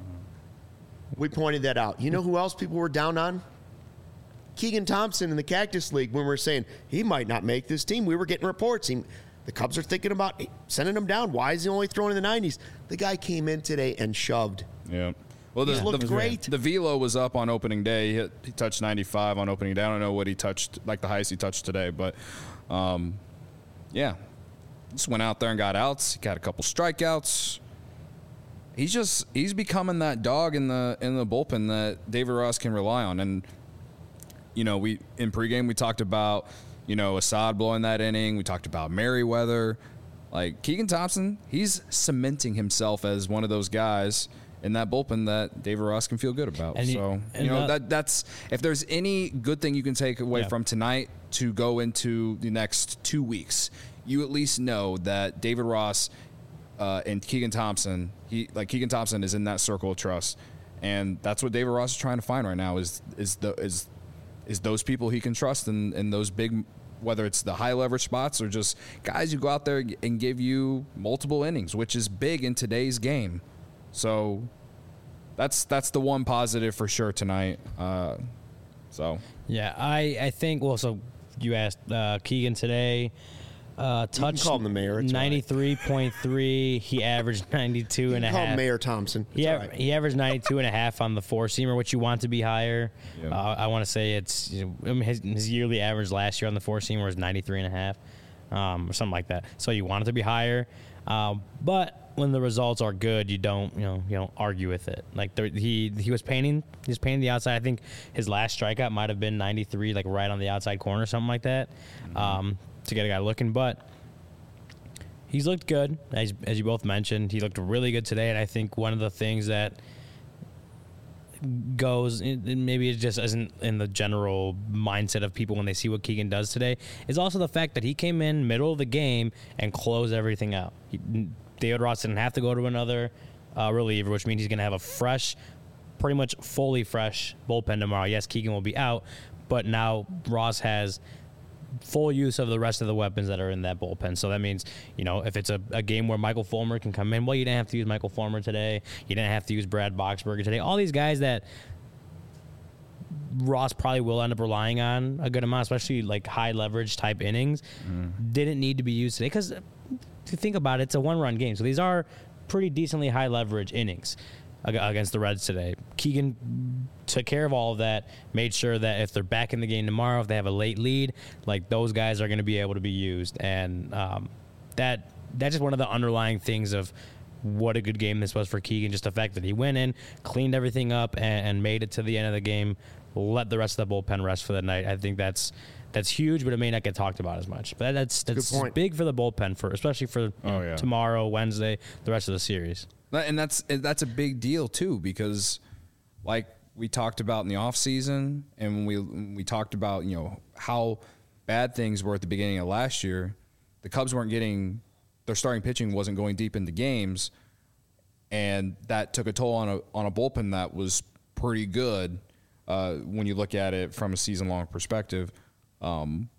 We pointed that out. You know who else people were down on? Keegan Thompson in the Cactus League. When we were saying he might not make this team, we were getting reports. He, the Cubs are thinking about sending him down. Why is he only throwing in the nineties? The guy came in today and shoved. Yeah. Well, the, He's looked the, great. The velo was up on opening day. He, hit, he touched ninety-five on opening day. I don't know what he touched, like the highest he touched today, but um, yeah, just went out there and got outs. He got a couple strikeouts. He's just he's becoming that dog in the in the bullpen that David Ross can rely on. And you know, we in pregame we talked about you know Assad blowing that inning. We talked about Merriweather. Like Keegan Thompson, he's cementing himself as one of those guys in that bullpen that David Ross can feel good about. And you- so and you know that- that that's if there's any good thing you can take away Yeah. from tonight to go into the next two weeks, you at least know that David Ross uh, and Keegan Thompson, he like Keegan Thompson is in that circle of trust, and that's what David Ross is trying to find right now is is the is is those people he can trust in in those big. Whether it's the high leverage spots or just guys who go out there and give you multiple innings, which is big in today's game. So that's that's the one positive for sure tonight. Uh, so yeah, I, I think, well, so you asked uh, Keegan today. Uh, touched call him the mayor, it's all right. ninety-three point three. He averaged ninety-two and a Call him half. Mayor Thompson. It's He, all av- right. he averaged ninety-two and a half on the four-seamer, which you want to be higher. Yeah. Uh, I want to say it's, you know, I mean, his, his yearly average last year on the four-seamer was ninety-three and a half, um, or something like that. So you want it to be higher. Um, but when the results are good, you don't, you know, you don't argue with it. Like there, he, he was painting, he was painting the outside. I think his last strikeout might have been ninety-three, like right on the outside corner, something like that, um, to get a guy looking. But he's looked good, as, as you both mentioned. He looked really good today, and I think one of the things that goes, and maybe it just isn't in the general mindset of people when they see what Keegan does today, is also the fact that he came in middle of the game and closed everything out. He, David Ross didn't have to go to another uh, reliever, which means he's going to have a fresh, pretty much fully fresh bullpen tomorrow. Yes, Keegan will be out, but now Ross has full use of the rest of the weapons that are in that bullpen. So that means, you know, if it's a, a game where Michael Fulmer can come in, well, you didn't have to use Michael Fulmer today. You didn't have to use Brad Boxberger today. All these guys that Ross probably will end up relying on a good amount, especially like high leverage type innings, mm. didn't need to be used today. Because to think about it, it's a one-run game. So these are pretty decently high leverage innings against the Reds today. Keegan took care of all of that, made sure that if they're back in the game tomorrow, if they have a late lead, like those guys are going to be able to be used. And um, that that's just one of the underlying things of what a good game this was for Keegan. Just the fact that he went in, cleaned everything up, and, and made it to the end of the game, let the rest of the bullpen rest for the night. I think that's that's huge, but it may not get talked about as much. But that's that's big for the bullpen, for especially for oh, yeah. tomorrow, Wednesday, the rest of the series. And that's that's a big deal too, because like we talked about in the offseason, and when we when we talked about, you know, how bad things were at the beginning of last year, the Cubs weren't getting their starting pitching wasn't going deep into games, and that took a toll on a on a bullpen that was pretty good uh, when you look at it from a season long perspective. Um,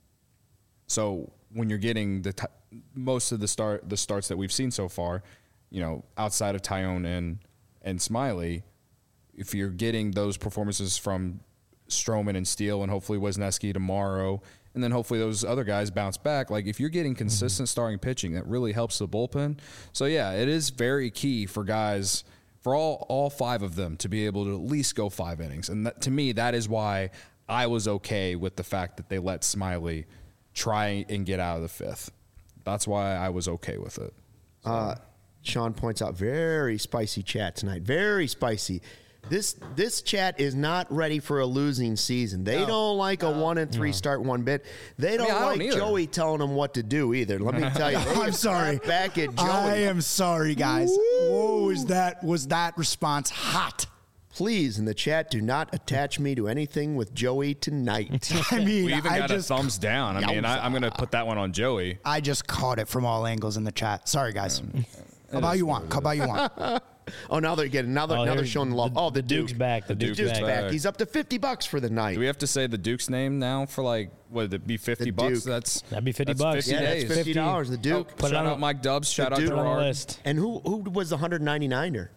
so when you're getting the t- most of the start the starts that we've seen so far, you know, outside of Tyone and and Smiley, if you're getting those performances from Stroman and Steele and hopefully Wisniewski tomorrow, and then hopefully those other guys bounce back, like if you're getting consistent mm-hmm. starting pitching, that really helps the bullpen. So yeah, it is very key for guys, for all all five of them to be able to at least go five innings. And that, to me, that is why I was okay with the fact that they let Smiley try and get out of the fifth. That's why I was okay with it. So. Uh, Sean points out, very spicy chat tonight. Very spicy. This this chat is not ready for a losing season. They no. don't like a one and three no. start one bit. They don't I mean, like don't Joey telling them what to do either. Let me tell you. I'm sorry. Back at Joey. I am sorry, guys. Woo. Whoa, was that was that response hot? Please, in the chat, do not attach me to anything with Joey tonight. I mean, we even I got just, a thumbs down. I mean, I, I'm going to put that one on Joey. I just caught it from all angles in the chat. Sorry, guys. Um, How about you want? How about you want? Oh, now they're getting now they're, oh, now they're showing the love. The, oh, the, the Duke's Duke. back. The, the Duke's, Duke's back. back. He's up to fifty bucks for the night. Do we have to say the Duke's name now for like what would it be fifty The bucks? Duke. That's That'd be fifty that's bucks. fifty Yeah, days. that's fifty dollars. The Duke. Oh, Put it shout on out a- Mike Dubs. Shout out Duke. Put it on the Gerard. list. And who who was the one hundred ninety-niner?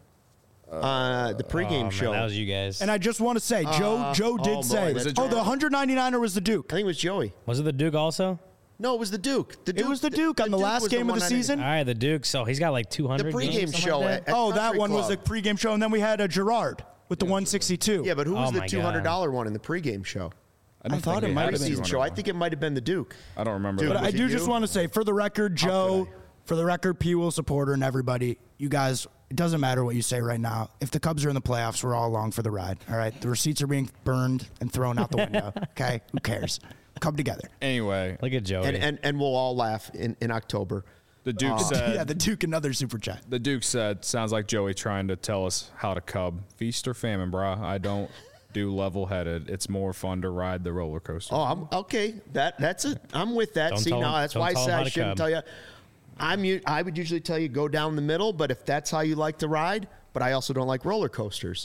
Uh, the pregame Oh, man, show. that was you guys. And I just want to say, Joe Uh, Joe did oh, boy, say, Was it oh, Joe? the one hundred ninety-niner was the Duke. I think it was Joey. was it the Duke also? No, it was the Duke. The Duke It was the Duke on the Duke last was game of the one ninety. season. All right, the Duke. So he's got like two The hundred. pregame games, something show. like that? At, at Oh, that Country one was the Club. pregame show, and then we had a Gerard with the one sixty-two. Yeah, but who was Oh, the my two hundred dollar one in the pregame show? I, don't I thought think it we might had have a been. Season show. I think it might have been the Duke. I don't remember. Dude, that. But I Was it do you? just want to say, for the record, Joe, could for the record, P. Will supporter and everybody, you guys, it doesn't matter what you say right now. If the Cubs are in the playoffs, we're all along for the ride. All right, the receipts are being burned and thrown out the window. Okay, who cares? Come together. Anyway, Look at Joey. And, and and we'll all laugh in, in October. the Duke said. yeah, the Duke, another super chat. The Duke said, sounds like Joey trying to tell us how to cub. Feast or famine, brah. I don't do level-headed. It's more fun to ride the roller coaster. Oh, I'm okay. That that's it. I'm with that. Don't See, tell now him- that's don't why I tell him said how I to shouldn't cub. tell you. I'm u- I would usually tell you go down the middle, but if that's how you like to ride, but I also don't like roller coasters.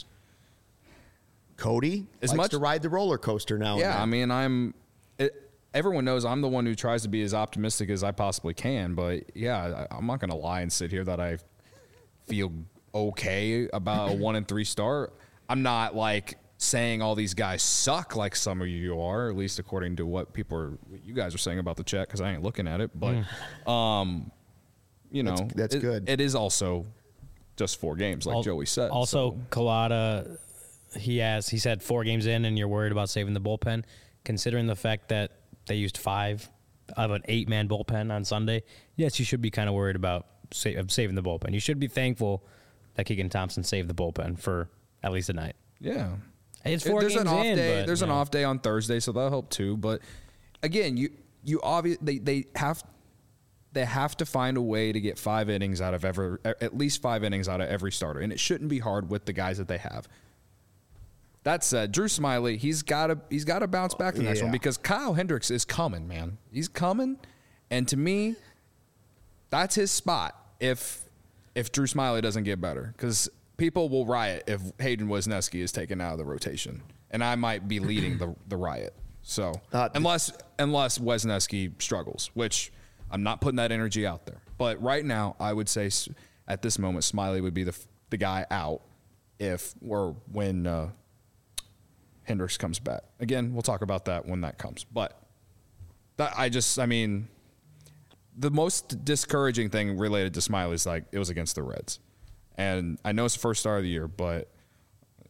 Cody As likes much- to ride the roller coaster now. Yeah, I and then. mean, I'm. It, everyone knows I'm the one who tries to be as optimistic as I possibly can. But yeah, I, I'm not going to lie and sit here that I feel okay about a one and three start. I'm not like saying all these guys suck like some of you are, at least according to what people are, what you guys are saying about the chat, because I ain't looking at it. But, um, you know, That's- that's it- good. It is also just four games, like Al- Joey said. Also, so. Collada, he has he said four games in, and you're worried about saving the bullpen, considering the fact that they used five of an eight man bullpen on Sunday. Yes, you should be kind of worried about sa- of saving the bullpen. You should be thankful that Keegan Thompson saved the bullpen for at least a night. Yeah. It's four there's games an off in, day. but, There's an you know. off day on Thursday, so that'll help too. But again, you you obvious they, they have they have to find a way to get five innings out of every at least five innings out of every starter, and it shouldn't be hard with the guys that they have. That said, Drew Smiley, he's got to he's got to bounce back the next Yeah. one because Kyle Hendricks is coming, man. He's coming, and to me, that's his spot if if Drew Smiley doesn't get better, because people will riot if Hayden Wisniewski is taken out of the rotation, and I might be leading the the riot. So Uh, unless unless Wisniewski struggles, which I'm not putting that energy out there, but right now I would say s- at this moment Smiley would be the f- the guy out if or when uh, Hendricks comes back. Again, we'll talk about that when that comes. But that I just I mean the most discouraging thing related to Smiley is like it was against the Reds. And I know it's the first start of the year, but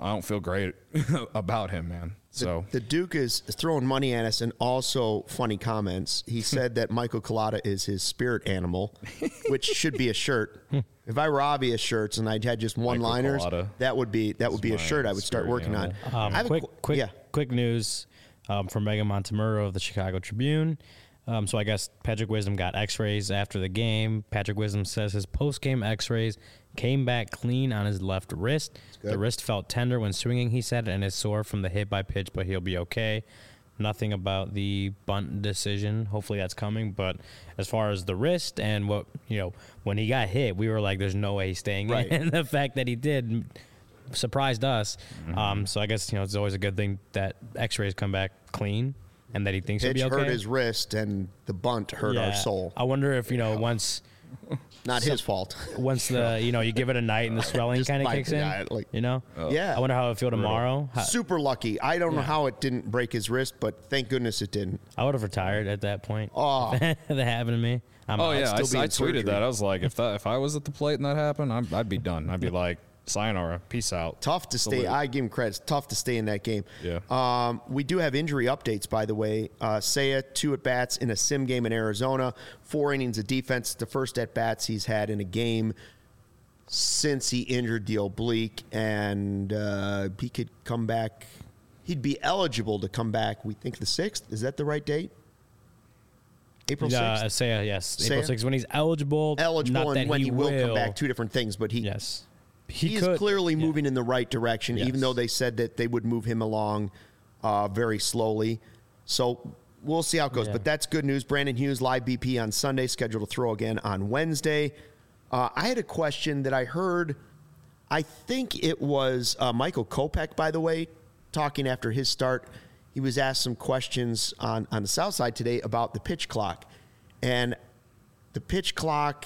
I don't feel great about him, man. So the, the Duke is throwing money at us and also funny comments. He said that Michael Collada is his spirit animal, which should be a shirt. If I were obvious shirts and I had just one-liners, that would be that would be a shirt I would start working animal. on. Um, I have quick, a, qu- quick, yeah. quick news um, from Megan Montemurro of the Chicago Tribune. Um, so I guess Patrick Wisdom got X-rays after the game. Patrick Wisdom says his post-game X-rays came back clean on his left wrist. The wrist felt tender when swinging, he said, and is sore from the hit by pitch, but he'll be okay. Nothing about the bunt decision. Hopefully that's coming. But as far as the wrist and what, you know, when he got hit, we were like, there's no way he's staying right. in. And the fact that he did surprised us. Mm-hmm. Um, so I guess, you know, it's always a good thing that X-rays come back clean and that he thinks Pitch he'll be okay. hurt his wrist and the bunt hurt yeah. our soul. I wonder if, you know, once... Not his fault. Once the, you know, you give it a night and the swelling kind of like, kicks in, yeah, like, you know? yeah. I wonder how it would feel tomorrow. How, Super lucky. I don't know Yeah. how it didn't break his wrist, but thank goodness it didn't. I would have retired at that point. Oh. that happened to me. I'm oh out. yeah, I, still be I in tweeted surgery. that. I was like, if that if I was at the plate and that happened, I'd, I'd be done. I'd be like, sayonara, peace out. Tough to stay. Salute. I give him credit. It's tough to stay in that game. Yeah. Um, we do have injury updates, by the way. Uh, Seiya, two at bats in a sim game in Arizona. Four innings of defense. The first at bats he's had in a game since he injured the oblique, and uh, he could come back. He'd be eligible to come back. We think the sixth. Is that the right date? April Uh, sixth. say yes, Say April it. sixth when he's eligible. Eligible, not and that when he, will, will come back, two different things. But he, Yes, he, he, is could. clearly Yeah. moving in the right direction, Yes. even though they said that they would move him along uh, very slowly. So we'll see how it goes. Yeah. But that's good news. Brandon Hughes, live B P on Sunday, scheduled to throw again on Wednesday. Uh, I had a question that I heard. I think it was uh, Michael Kopech, by the way, talking after his start. He was asked some questions on, on the South Side today about the pitch clock. And the pitch clock,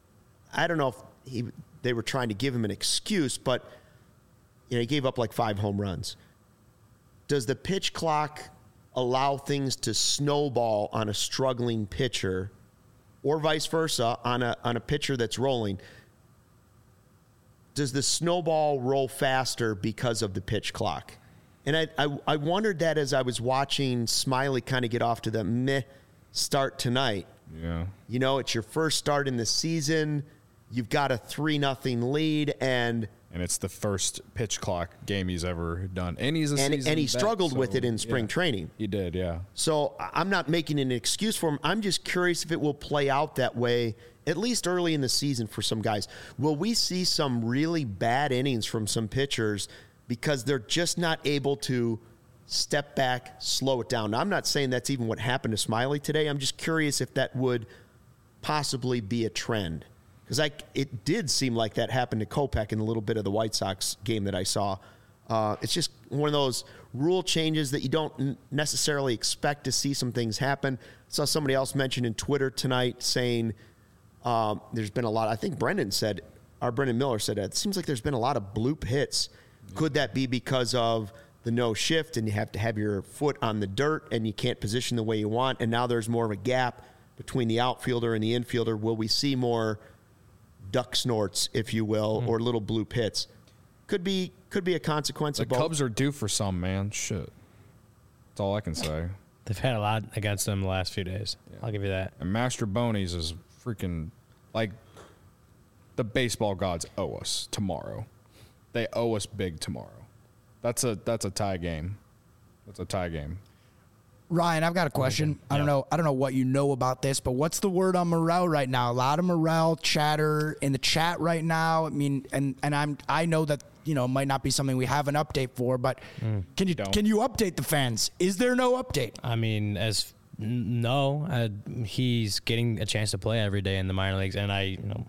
I don't know if he, they were trying to give him an excuse, but you know, he gave up like five home runs. Does the pitch clock allow things to snowball on a struggling pitcher, or vice versa on a on a pitcher that's rolling? Does the snowball roll faster because of the pitch clock? And I I, I wondered that as I was watching Smiley kind of get off to the meh start tonight. Yeah. You know, it's your first start in the season. You've got a three nothing lead, and And it's the first pitch clock game he's ever done. And he's a and, seasoned and he vet, struggled so, with it in spring yeah. training. He did, yeah. So I- I'm not making an excuse for him. I'm just curious if it will play out that way, at least early in the season for some guys. Will we see some really bad innings from some pitchers because they're just not able to step back, slow it down? Now, I'm not saying that's even what happened to Smiley today. I'm just curious if that would possibly be a trend. Because I, it did seem like that happened to Kopech in a little bit of the White Sox game that I saw. Uh, it's just one of those rule changes that you don't n- necessarily expect to see some things happen. I saw somebody else mention in Twitter tonight saying um, there's been a lot. I think Brendan said, our Brendan Miller said, it seems like there's been a lot of bloop hits. Could that be because of the no shift and you have to have your foot on the dirt and you can't position the way you want, and now there's more of a gap between the outfielder and the infielder? Will we see more duck snorts, if you will, mm. or little bloop hits? Could be could be a consequence The of both. Cubs are due for some, man. Shit. That's all I can say. They've had a lot against them the last few days. Yeah. I'll give you that. And Master Bonies is freaking like the baseball gods owe us tomorrow. They owe us big tomorrow. That's a that's a tie game. That's a tie game. Ryan, I've got a question. I don't know. I don't know what you know about this, but what's the word on Morel right now? A lot of Morel chatter in the chat right now. I mean, and and I'm I know that you know it might not be something we have an update for, but mm. can you Don't. can you update the fans? Is there no update? I mean, as n- no, uh, he's getting a chance to play every day in the minor leagues, and I you know.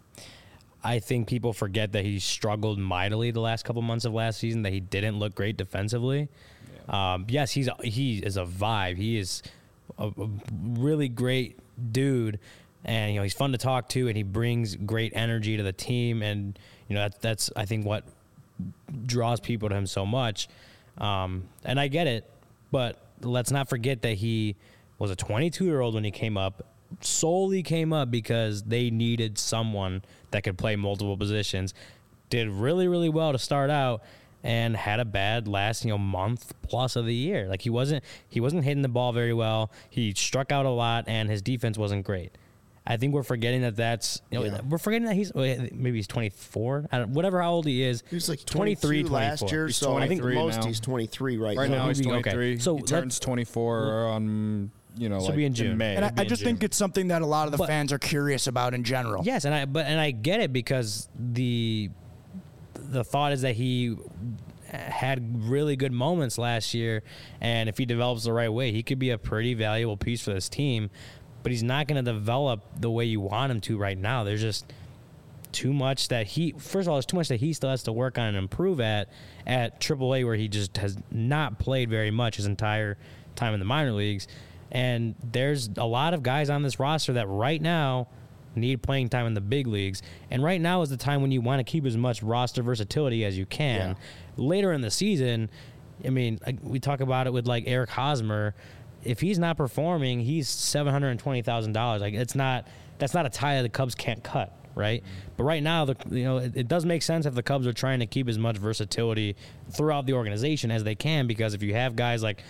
I think people forget that he struggled mightily the last couple months of last season, that he didn't look great defensively. Yeah. Um, yes, he's a, he is a vibe. He is a, a really great dude, and you know he's fun to talk to, and he brings great energy to the team, and you know that's that's I think what draws people to him so much. Um, and I get it, but let's not forget that he was a twenty-two-year-old when he came up. Solely came up because they needed someone that could play multiple positions. Did really, really well to start out, and had a bad last, you know, month plus of the year. Like he wasn't he wasn't hitting the ball very well. He struck out a lot, and his defense wasn't great. I think we're forgetting that that's, you know, Yeah. we're forgetting that he's, maybe he's twenty-four, I don't, whatever how old he is. He was like twenty-three, twenty-two last twenty-four. year, He's so I think the twenty-three most now. he's twenty-three right, Right now he's Okay. twenty-three. So he let- turns twenty-four on, you know, This like will be in June. May. And I, It'd be I in just June. think it's something that a lot of the But- fans are curious about in general. Yes, and I but and I get it because the the thought is that he had really good moments last year, and if he develops the right way, he could be a pretty valuable piece for this team. But he's not going to develop the way you want him to right now. There's just too much that he. First of all, there's too much that he still has to work on and improve at at triple A, where he just has not played very much his entire time in the minor leagues. And there's a lot of guys on this roster that right now need playing time in the big leagues. And right now is the time when you want to keep as much roster versatility as you can. Yeah. Later in the season, I mean, like, we talk about it with like Eric Hosmer. If he's not performing, he's seven hundred twenty thousand dollars. Like it's not that's not a tie that the Cubs can't cut, right? Mm-hmm. But right now, the you know it, it does make sense if the Cubs are trying to keep as much versatility throughout the organization as they can, because if you have guys like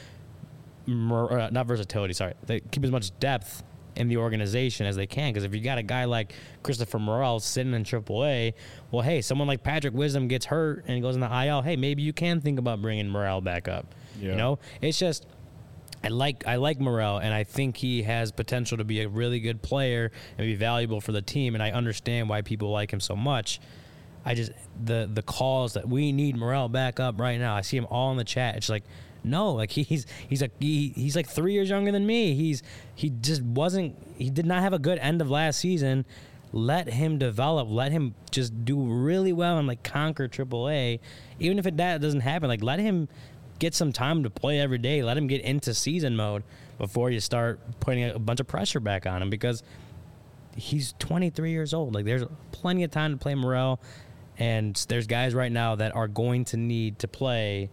uh, not versatility, sorry, they keep as much depth in the organization as they can. Because if you got a guy like Christopher Morel sitting in triple A, well, hey, someone like Patrick Wisdom gets hurt and goes in the I L. Hey, maybe you can think about bringing Morel back up. Yeah. You know, it's just. I like I like Morel, and I think he has potential to be a really good player and be valuable for the team, and I understand why people like him so much. I just the the calls that we need Morel back up right now. I see him all in the chat. It's like, no, like he's he's a he, he's like three years younger than me. He's he just wasn't he did not have a good end of last season. Let him develop. Let him just do really well and like conquer triple A. Even if it, that doesn't happen, like let him get some time to play every day. Let him get into season mode before you start putting a bunch of pressure back on him, because he's twenty-three years old. Like there's plenty of time to play Morel, and there's guys right now that are going to need to play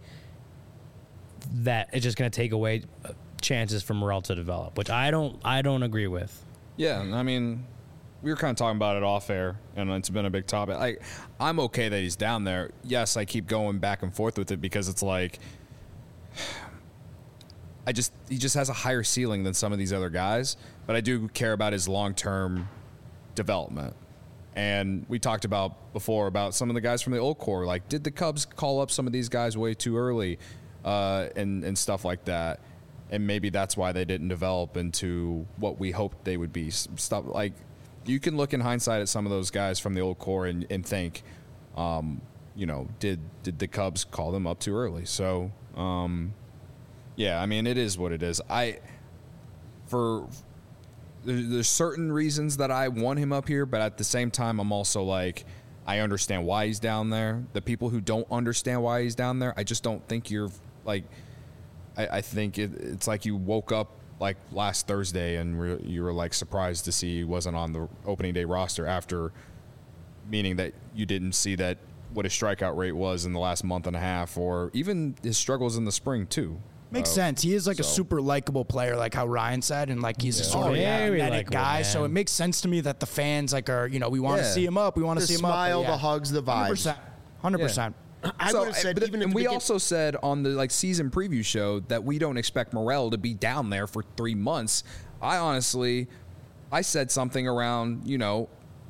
that it's just going to take away chances for Morel to develop, which I don't I don't agree with. Yeah, I mean, we were kind of talking about it off air, and it's been a big topic. Like, I'm okay that he's down there. Yes, I keep going back and forth with it because it's like, I just he just has a higher ceiling than some of these other guys, but I do care about his long-term development. And we talked about before about some of the guys from the old core. Like, did the Cubs call up some of these guys way too early, uh, and and stuff like that? And maybe that's why they didn't develop into what we hoped they would be. Stuff like, you can look in hindsight at some of those guys from the old core and, and think, um, you know, did did the Cubs call them up too early? So, um, yeah, I mean, it is what it is. I for there, there's certain reasons that I want him up here, but at the same time, I'm also like, I understand why he's down there. The people who don't understand why he's down there, I just don't think you're like. I, I think it, it's like you woke up like last Thursday and re- you were like surprised to see he wasn't on the opening day roster after, meaning that you didn't see that what his strikeout rate was in the last month and a half, or even his struggles in the spring too. Makes Uh, sense. He is like a so- super likable player, like how Ryan said, and like he's a Yeah. sort Oh, of yeah, very magnetic likable, guy. So man. it makes sense to me that the fans like are, you know, we want to Yeah. see him up. We want to The see him up. smile, But yeah, the hugs, the one hundred vibes. percent. one hundred percent. I So, would have said but- even at and the we begin- also said on the like season preview show that we don't expect Morel to be down there for three months. I honestly, I said something around, you know,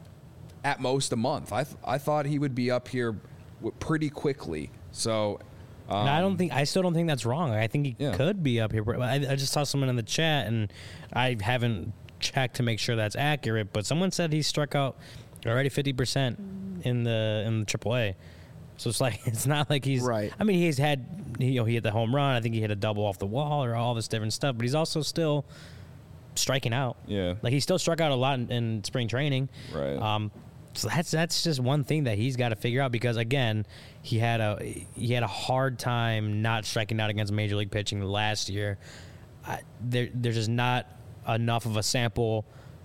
at most a month. I th- I thought he would be up here w- pretty quickly. So, um, And I don't think I still don't think that's wrong. I think he Yeah. could be up here. But I, I just saw someone in the chat, and I haven't checked to make sure that's accurate. But someone said he struck out already fifty percent in the in the triple A. So it's like it's not like he's Right. I mean, he's had you know he hit the home run. I think he hit a double off the wall or all this different stuff. But he's also still striking out. Yeah. like he still struck out a lot in, in spring training. Right. Um, so that's that's just one thing that he's got to figure out, because again, he had a he had a hard time not striking out against major league pitching last year. I, there there's just not enough of a sample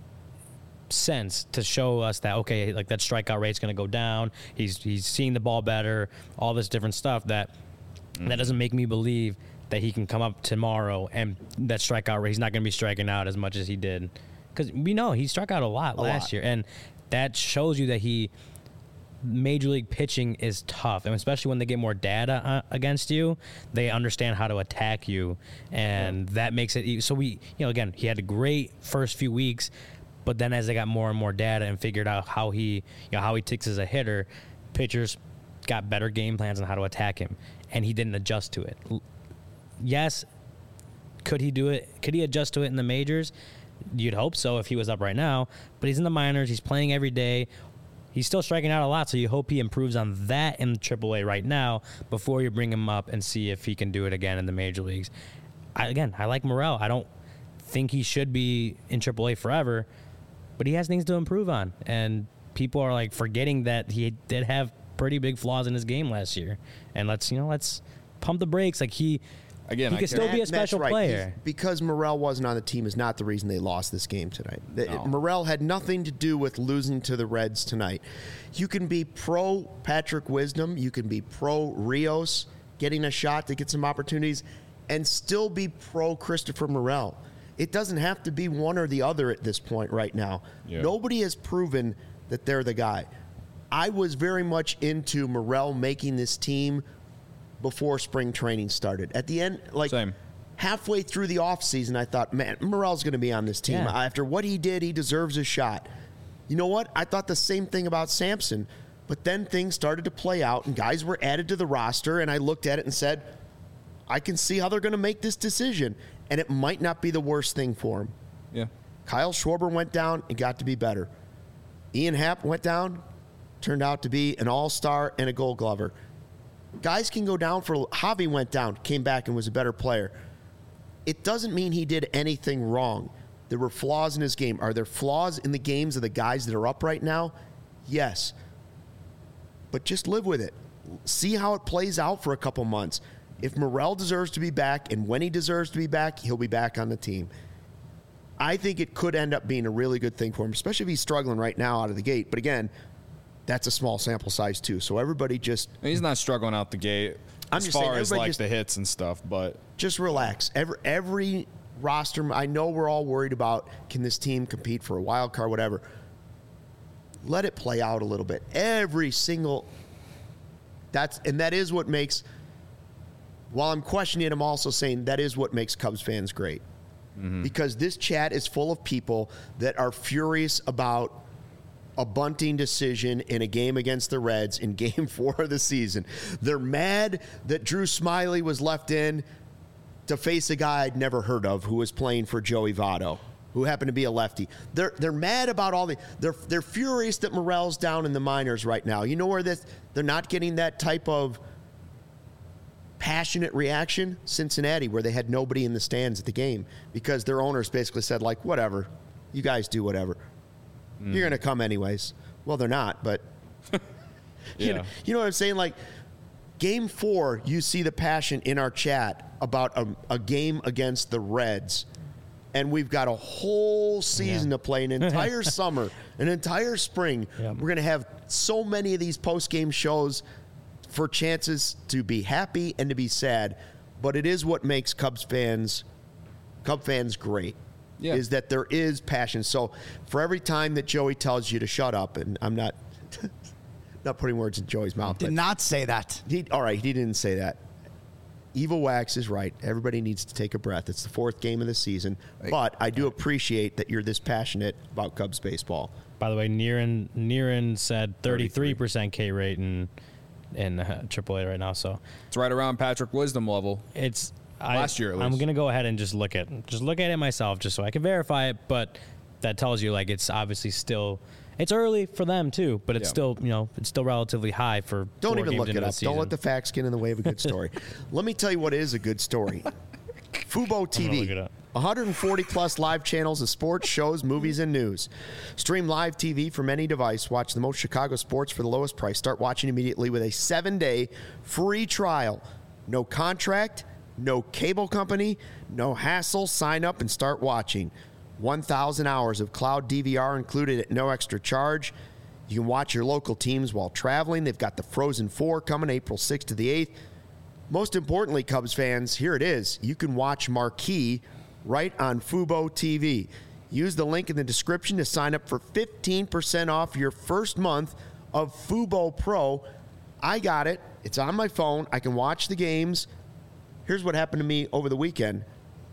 sense to show us that okay, like that strikeout rate's going to go down. He's he's seeing the ball better, all this different stuff that mm-hmm. that doesn't make me believe that he can come up tomorrow and that strikeout rate, he's not going to be striking out as much as he did, because we know he struck out a lot A last lot. year, and that shows you that he Major League pitching is tough, and especially when they get more data uh, against you, they understand how to attack you, and yeah. that makes it. E- so we, you know, again, he had a great first few weeks, but then as they got more and more data and figured out how he, you know, how he ticks as a hitter, pitchers got better game plans on how to attack him, and he didn't adjust to it. Yes, could he do it? Could he adjust to it in the majors? You'd hope so if he was up right now, but he's in the minors. He's playing every day. He's still striking out a lot, so you hope he improves on that in triple A right now before you bring him up and see if he can do it again in the major leagues. I, again, I like Morel. I don't think he should be in triple A forever, but he has things to improve on. And people are like forgetting that he did have pretty big flaws in his game last year. And let's, you know, let's pump the brakes. Like he... Again, he could still be a special right. player. He's, because Morel wasn't on the team is not the reason they lost this game tonight. No. Morel had nothing to do with losing to the Reds tonight. You can be pro Patrick Wisdom, you can be pro Rios getting a shot to get some opportunities, and still be pro Christopher Morel. It doesn't have to be one or the other at this point right now. Yeah. Nobody has proven that they're the guy. I was very much into Morel making this team before spring training started. At the end, like Same. halfway through the offseason, I thought, man, Morel's going to be on this team. Yeah. After what he did, he deserves a shot. You know what? I thought the same thing about Sampson, but then things started to play out, and guys were added to the roster, and I looked at it and said, I can see how they're going to make this decision, and it might not be the worst thing for him. Yeah. Kyle Schwarber went down and got to be better. Ian Happ went down, turned out to be an all-star and a gold glover. Guys can go down for Javi went down, came back and was a better player. It doesn't mean he did anything wrong. There were flaws in his game. Are there flaws in the games of the guys that are up right now? Yes. But just live with it. See how it plays out for a couple months. If Morel deserves to be back, and when he deserves to be back, he'll be back on the team. I think it could end up being a really good thing for him, especially if he's struggling right now out of the gate. But again, that's a small sample size too. So everybody just... He's not struggling out the gate I'm as just far saying, as like just, the hits and stuff, but... Just relax. Every, every roster... I know we're all worried about, can this team compete for a wild card, whatever. Let it play out a little bit. Every single... That's And that is what makes... While I'm questioning it, I'm also saying that is what makes Cubs fans great. Mm-hmm. Because this chat is full of people that are furious about a bunting decision in a game against the Reds in game four of the season. They're mad that Drew Smyly was left in to face a guy I'd never heard of who was playing for Joey Votto, who happened to be a lefty. They're they're mad about all the they're they're furious that Morel's down in the minors right now. You know where this they're not getting that type of passionate reaction? Cincinnati, where they had nobody in the stands at the game because their owners basically said, like, whatever, you guys do whatever. Mm. You're going to come anyways. Well, they're not, but yeah. you know, you know what I'm saying? Like, game four, you see the passion in our chat about a, a game against the Reds, and we've got a whole season yeah. to play, an entire summer, an entire spring. Yep. We're going to have so many of these post-game shows for chances to be happy and to be sad, but it is what makes Cubs fans, Cub fans great. Yeah. Is that there is passion. So for every time that Joey tells you to shut up, and I'm not not putting words in Joey's mouth. Did not say that. He, all right, he didn't say that. Evil Wax is right. Everybody needs to take a breath. It's the fourth game of the season, but I do appreciate that you're this passionate about Cubs baseball. By the way, Niren Niren said thirty-three percent K rate in in uh, triple A right now, so it's right around Patrick Wisdom level. It's last I, year at least. I'm gonna go ahead and just look at just look at it myself just so I can verify it, but that tells you like it's obviously still it's early for them too, but it's yeah. still you know it's still relatively high for don't four even games look it into up. the Don't season. let the facts get in the way of a good story. Let me tell you what is a good story. Fubo T V. look it up. one hundred forty plus live channels of sports, shows, movies, and news. Stream live T V from any device. Watch the most Chicago sports for the lowest price. Start watching immediately with a seven-day free trial. No contract, no cable company, no hassle. Sign up and start watching. one thousand hours of cloud D V R included at no extra charge. You can watch your local teams while traveling. They've got the Frozen Four coming April sixth to the eighth. Most importantly, Cubs fans, here it is. You can watch Marquee right on Fubo T V. Use the link in the description to sign up for fifteen percent off your first month of Fubo Pro. I got it. It's on my phone. I can watch the games. Here's what happened to me over the weekend.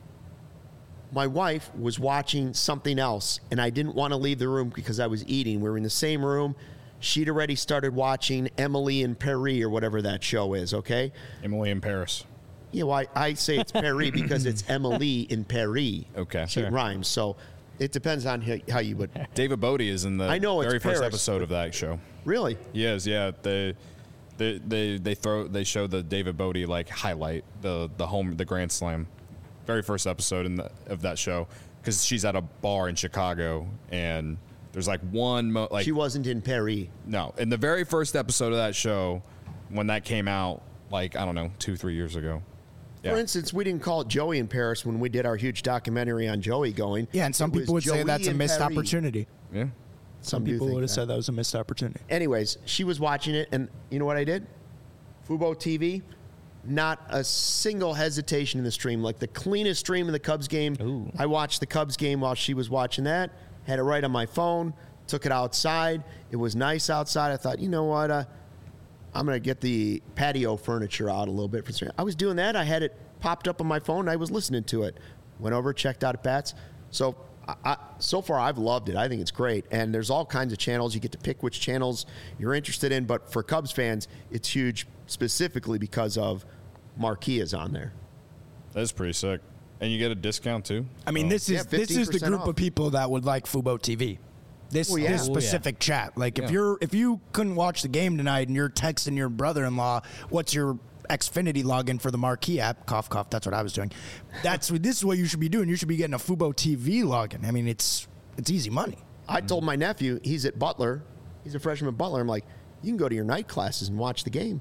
My wife was watching something else, and I didn't want to leave the room because I was eating. We were in the same room. She'd already started watching Emily in Paris or whatever that show is, okay? Emily in Paris. Yeah, well, I, I say it's Paris because it's Emily in Paris. Okay. It Sure. rhymes, so it depends on how, how you would. David Bodie is in the I know, it's very first Paris. episode of that show. Really? He is, yeah. They, they, they, they throw, they show the David Bodie like highlight the the home the Grand Slam, very first episode in the, of that show, because she's at a bar in Chicago and there's like one mo- like She wasn't in Paris. no, in the very first episode of that show, when that came out, like I don't know, two three years ago. Yeah. For instance, we didn't call it Joey in Paris when we did our huge documentary on Joey going. Yeah, and some It was people would say Joey that's a in missed Paris. opportunity. Yeah. Some do people think would have that. said that was a missed opportunity. Anyways, she was watching it, and you know what I did? Fubo T V, not a single hesitation in the stream. Like the cleanest stream in the Cubs game. Ooh. I watched the Cubs game while she was watching that. Had it right on my phone. Took it outside. It was nice outside. I thought, you know what? Uh, I'm going to get the patio furniture out a little bit. For I was doing that. I had it popped up on my phone. I was listening to it. Went over, checked out at Pat's. So I, I, so far, I've loved it. I think it's great. And there's all kinds of channels. You get to pick which channels you're interested in. But for Cubs fans, it's huge specifically because of Marquee is on there. That's pretty sick. And you get a discount too. I mean, So- this is Yeah, this is the fifteen percent group off. of people that would like Fubo T V. This, Well, yeah. this Oh, yeah. specific chat. Like if Yeah. you're if you couldn't watch the game tonight and you're texting your brother-in-law, what's your Xfinity login for the Marquee app? Cough, cough. That's what I was doing. That's what this is what you should be doing. You should be getting a Fubo T V login. I mean, it's it's easy money. I told my nephew, he's at Butler. He's a freshman at Butler. I'm like, you can go to your night classes and watch the game.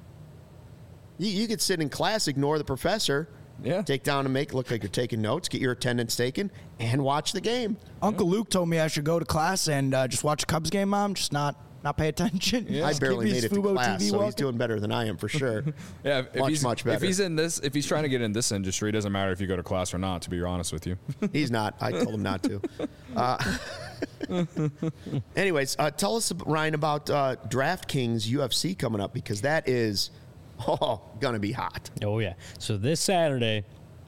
You, you could sit in class, ignore the professor, Yeah. take down and make it look like you're taking notes, get your attendance taken, and watch the game. Uncle Luke told me I should go to class and uh, just watch a Cubs game, Mom. Just not not pay attention. Yeah. I Just barely keep made his it to Fubo class, T V so he's walking. doing better than I am for sure. Yeah, if, if Much, he's, much better. If he's in this, if he's trying to get in this industry, it doesn't matter if you go to class or not. To be honest with you, He's not. I told him not to. Uh, anyways, uh, tell us, Ryan, about uh, DraftKings U F C coming up, because that is oh, going to be hot. Oh, yeah. So this Saturday,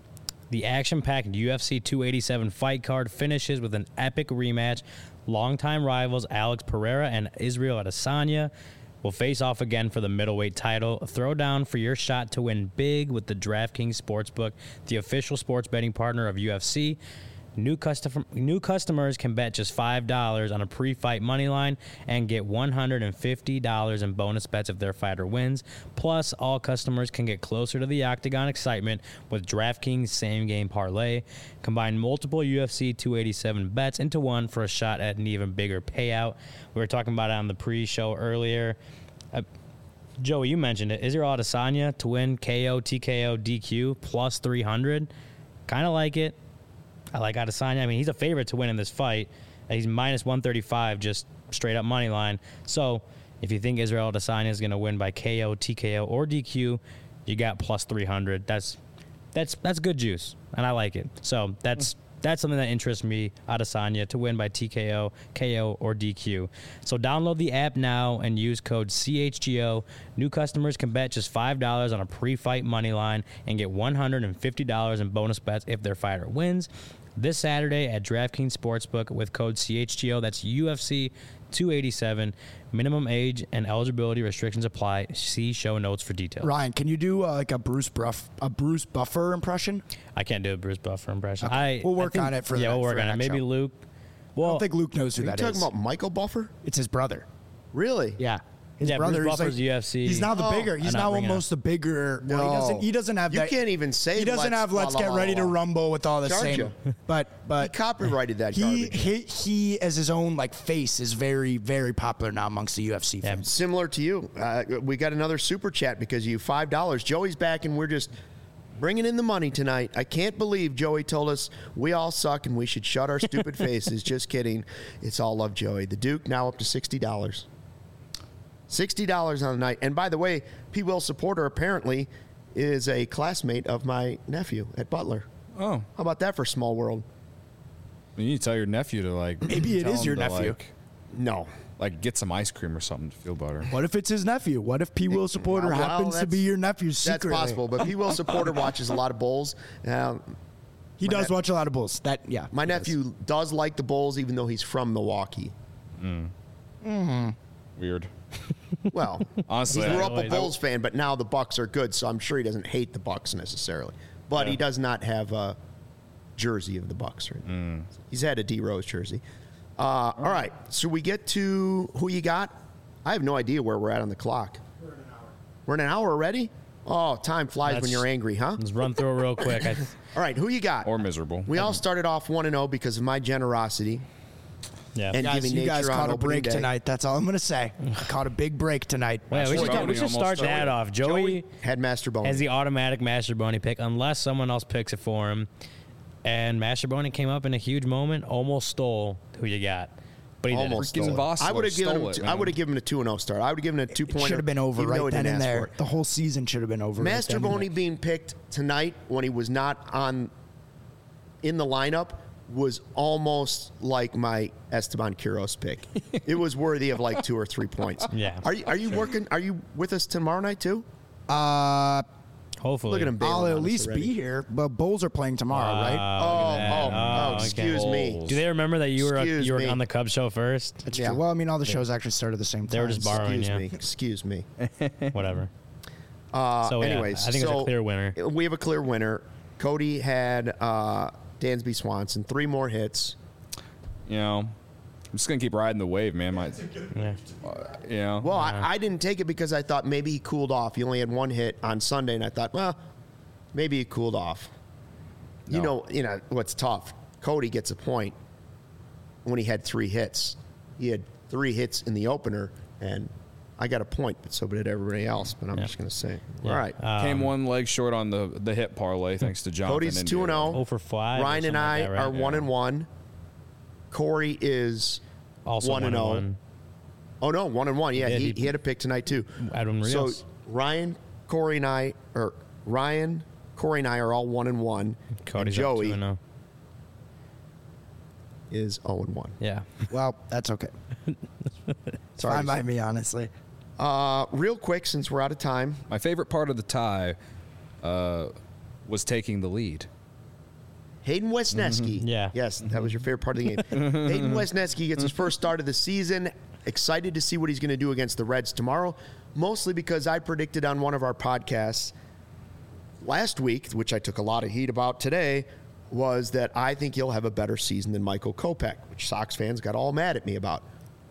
the action-packed U F C two eighty-seven fight card finishes with an epic rematch. Longtime rivals Alex Pereira and Israel Adesanya will face off again for the middleweight title. A throwdown for your shot to win big with the DraftKings Sportsbook, the official sports betting partner of U F C. New, custom, new customers can bet just five dollars on a pre-fight money line and get one hundred fifty dollars in bonus bets if their fighter wins. Plus, all customers can get closer to the octagon excitement with DraftKings Same Game Parlay. Combine multiple U F C two eighty-seven bets into one for a shot at an even bigger payout. We were talking about it on the pre-show earlier. Uh, Joey, you mentioned it. Israel Adesanya to win K O, T K O, D Q plus three hundred. Kind of like it. I like Adesanya. I mean, he's a favorite to win in this fight. He's minus one thirty-five, just straight up money line. So if you think Israel Adesanya is going to win by K O, T K O, or D Q, you got plus three hundred. That's that's that's good juice, and I like it. So that's that's something that interests me, Adesanya to win by T K O, K O, or D Q. So download the app now and use code C H G O. New customers can bet just five dollars on a pre-fight money line and get one hundred fifty dollars in bonus bets if their fighter wins. This Saturday at DraftKings Sportsbook with code C H G O. That's U F C two eighty-seven. Minimum age and eligibility restrictions apply. See show notes for details. Ryan, can you do uh, like a Bruce Bruff, a Bruce Buffer impression? I can't do a Bruce Buffer impression. Okay. I, We'll I work think- on it for yeah, the- we'll for work on it. next Maybe show. Luke. I Well, don't think Luke knows who Are you that talking is. about Michael Buffer? It's his brother. Really? Yeah. His Yeah, brother. Bruce he's Buffer's like, U F C. He's now the Oh. bigger. He's I'm not now bringing almost the bigger. Well, he No. doesn't. He doesn't have You that. can't even say He doesn't let's have. Let's la, la, get la, ready to la. rumble with all the Charge same. ya. But but He copyrighted that he, garbage. he he as his own like face is very very popular now amongst the U F C Yeah. fans. Similar to you. Uh, we got another super chat because of you five dollars. Joey's back, and we're just bringing in the money tonight. I can't believe Joey told us we all suck and we should shut our stupid faces. Just kidding. It's all love, Joey. The Duke now up to sixty dollars. sixty dollars on the night. And by the way, P. Will Supporter apparently is a classmate of my nephew at Butler. oh, How about that for small world? you need to tell your nephew to like. Maybe it tell is him your to, nephew. like- No. like get some ice cream or something to feel better. What if it's his nephew? What if P. Will supporter Well, happens to be that's- your nephew That's secretly? possible, but P. Will supporter watches a lot of Bulls. Uh, He My does ne- watch a lot of Bulls. That yeah. my he does. nephew does like the Bulls, even though he's from Milwaukee. Weird. Well, Honestly, he grew I- up a I- Bulls fan, but now the Bucks are good, so I'm sure he doesn't hate the Bucks necessarily. But he Yeah. does not have a jersey of the Bucks. Right now. He's had a D Rose jersey. Uh, all right, so we get to who you got. I have no idea where we're at on the clock. We're in an hour. We're in an hour already. Oh, time flies when That's- you're angry, huh? Let's run through it real quick. I, All right, who you got? or miserable. We all started off one and zero because of my generosity. yeah. And Guys, giving you guys nature on caught a opening break day. tonight. That's all I'm gonna say. I caught a big break tonight. Wait, we should, Joey we should almost start started. that off. Joey Had Master Bone. has the automatic Master Boney pick unless someone else picks it for him. And Master Boney came up in a huge moment, almost stole who you got. But he didn't. Almost Freaking stole it. Vossler I would have given him. stole it, two- I man. would have given him a two and zero start. I would have given him a two It pointer. should have been over even though right he then didn't and ask there. for it. The whole season should have been over. Master right then and Boney there. being picked tonight when he was not on in the lineup was almost like my Esteban Quiroz pick. It was worthy of like two or three points. Yeah. Are you are you working? Are you with us tomorrow night too? Uh, Hopefully. Look at him. bailing I'll on at us least already. be here. But Bulls are playing tomorrow, right? Oh, that. oh, Oh, oh, okay. excuse me. Bulls. Do they remember that you were Excuse you were me. on the Cubs show first? That's yeah. true. Well, I mean, all the shows actually started at the same time. They were just borrowing Excuse you. me. Excuse me. Whatever. Uh, So, yeah, anyways, I think it's a so clear winner. We have a clear winner. Cody had uh, Dansby Swanson, three more hits. You know, I'm just gonna keep riding the wave, man. My, Yeah. you know, Well, I, I didn't take it because I thought maybe he cooled off. He only had one hit on Sunday, and I thought, well, maybe he cooled off. You No. know, you know what's tough. Cody gets a point when he had three hits. He had three hits in the opener, and I got a point, but so did everybody else. But I'm Yeah. just going to say, Yeah. all right. Um, came one leg short on the the hit parlay thanks to Jonathan. Cody's India. two and oh zero. for five. or Ryan and something I like that, right? are one Yeah. and one. Corey is Also one and one zero. one. Oh no, one and one. Yeah, Yeah, he, he- he had a pick tonight too. Adam So Rios. Ryan, Corey, and I, or Ryan, Corey, and I are all one and one. Cody's and up Joey two and oh. is zero and one. Yeah. Well, that's okay. Sorry. Fine by me, honestly. Uh, real quick, since we're out of time, My favorite part of the tie uh, was taking the lead. Hayden Wesneski. Yeah. Yes, that was your favorite part of the game. Hayden Wesneski gets his first start of the season. Excited to see what he's going to do against the Reds tomorrow, mostly because I predicted on one of our podcasts last week, which I took a lot of heat about today, was that I think he'll have a better season than Michael Kopech, which Sox fans got all mad at me about.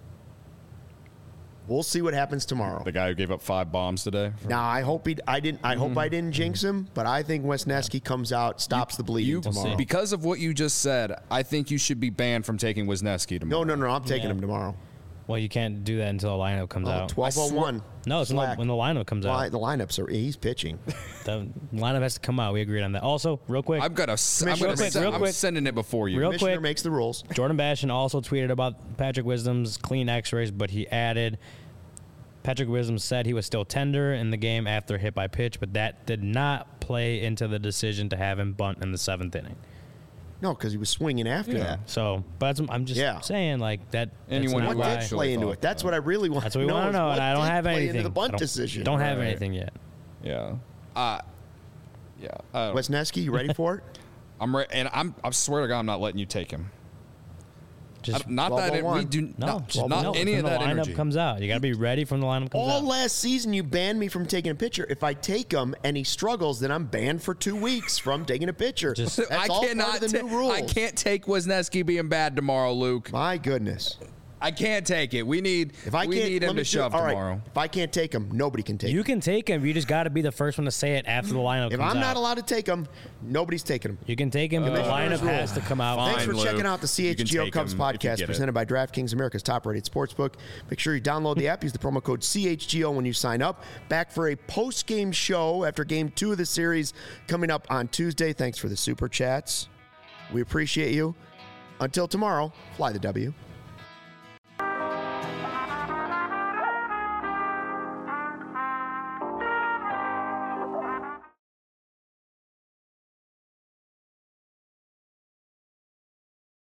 We'll see what happens tomorrow. The guy who gave up five bombs today. Now I hope he, I didn't, I hope I didn't jinx him, but I think Wesneski comes out, stops the bleeding You, tomorrow. because of what you just said, I think you should be banned from taking Wisniewski tomorrow. No, no, no, I'm taking Yeah. him tomorrow. Well, you can't do that until the lineup comes Oh, out. twelve oh one. No, it's when the, Slack. when the lineup comes Well, out. the lineups are, he's pitching. The lineup has to come out. We agreed on that. Also, real quick, I'm gonna. s- I'm, Commissioner, gonna real quick, sen- real I'm quick. sending it before you. Real Commissioner quick. makes the rules. Jordan Bashan also tweeted about Patrick Wisdom's clean X-rays, but he added Patrick Wisdom said he was still tender in the game after hit by pitch, but that did not play into the decision to have him bunt in the seventh inning. No, because he was swinging after Yeah. that. So, but that's, I'm just Yeah. saying like that. Anyone that's who not What why- did actually play into thought it? That's that. what I really want That's what we to know. want to is know, what and I don't did have play anything. into the I bunt don't, decision. Don't have Right. anything yet. Yeah. Uh, yeah. I don't- Wesneski, you ready for it? I'm re- and I'm. I swear to God, I'm not letting you take him. Just I- not that it, we twelve oh one. do. no, not just not no, any from of the that lineup energy. comes out. You got to be ready from the lineup comes All out. last season, you banned me from taking a pitcher. If I take him and he struggles, then I'm banned for two weeks from taking a pitcher. Just- That's I all cannot. part of the ta- new rules. I can't take Wisniewski being bad tomorrow, Luke. My goodness. I can't take it. We need. If I we can't, need let him me to do- shove all right, tomorrow. If I can't take him, nobody can take You him. can take him. You just got to be the first one to say it after the lineup If comes I'm out. not allowed to take him, nobody's taking him. You can take him, but the Commissioner's lineup rule. has to come out. Fine. Thanks for Luke. checking out the You can C H G O take Cubs him if you podcast get it. presented by DraftKings, America's top-rated sportsbook. Make sure you download the app. Use the promo code C H G O when you sign up. Back for a post-game show after Game two of the series coming up on Tuesday. Thanks for the super chats. We appreciate you. Until tomorrow, fly the W.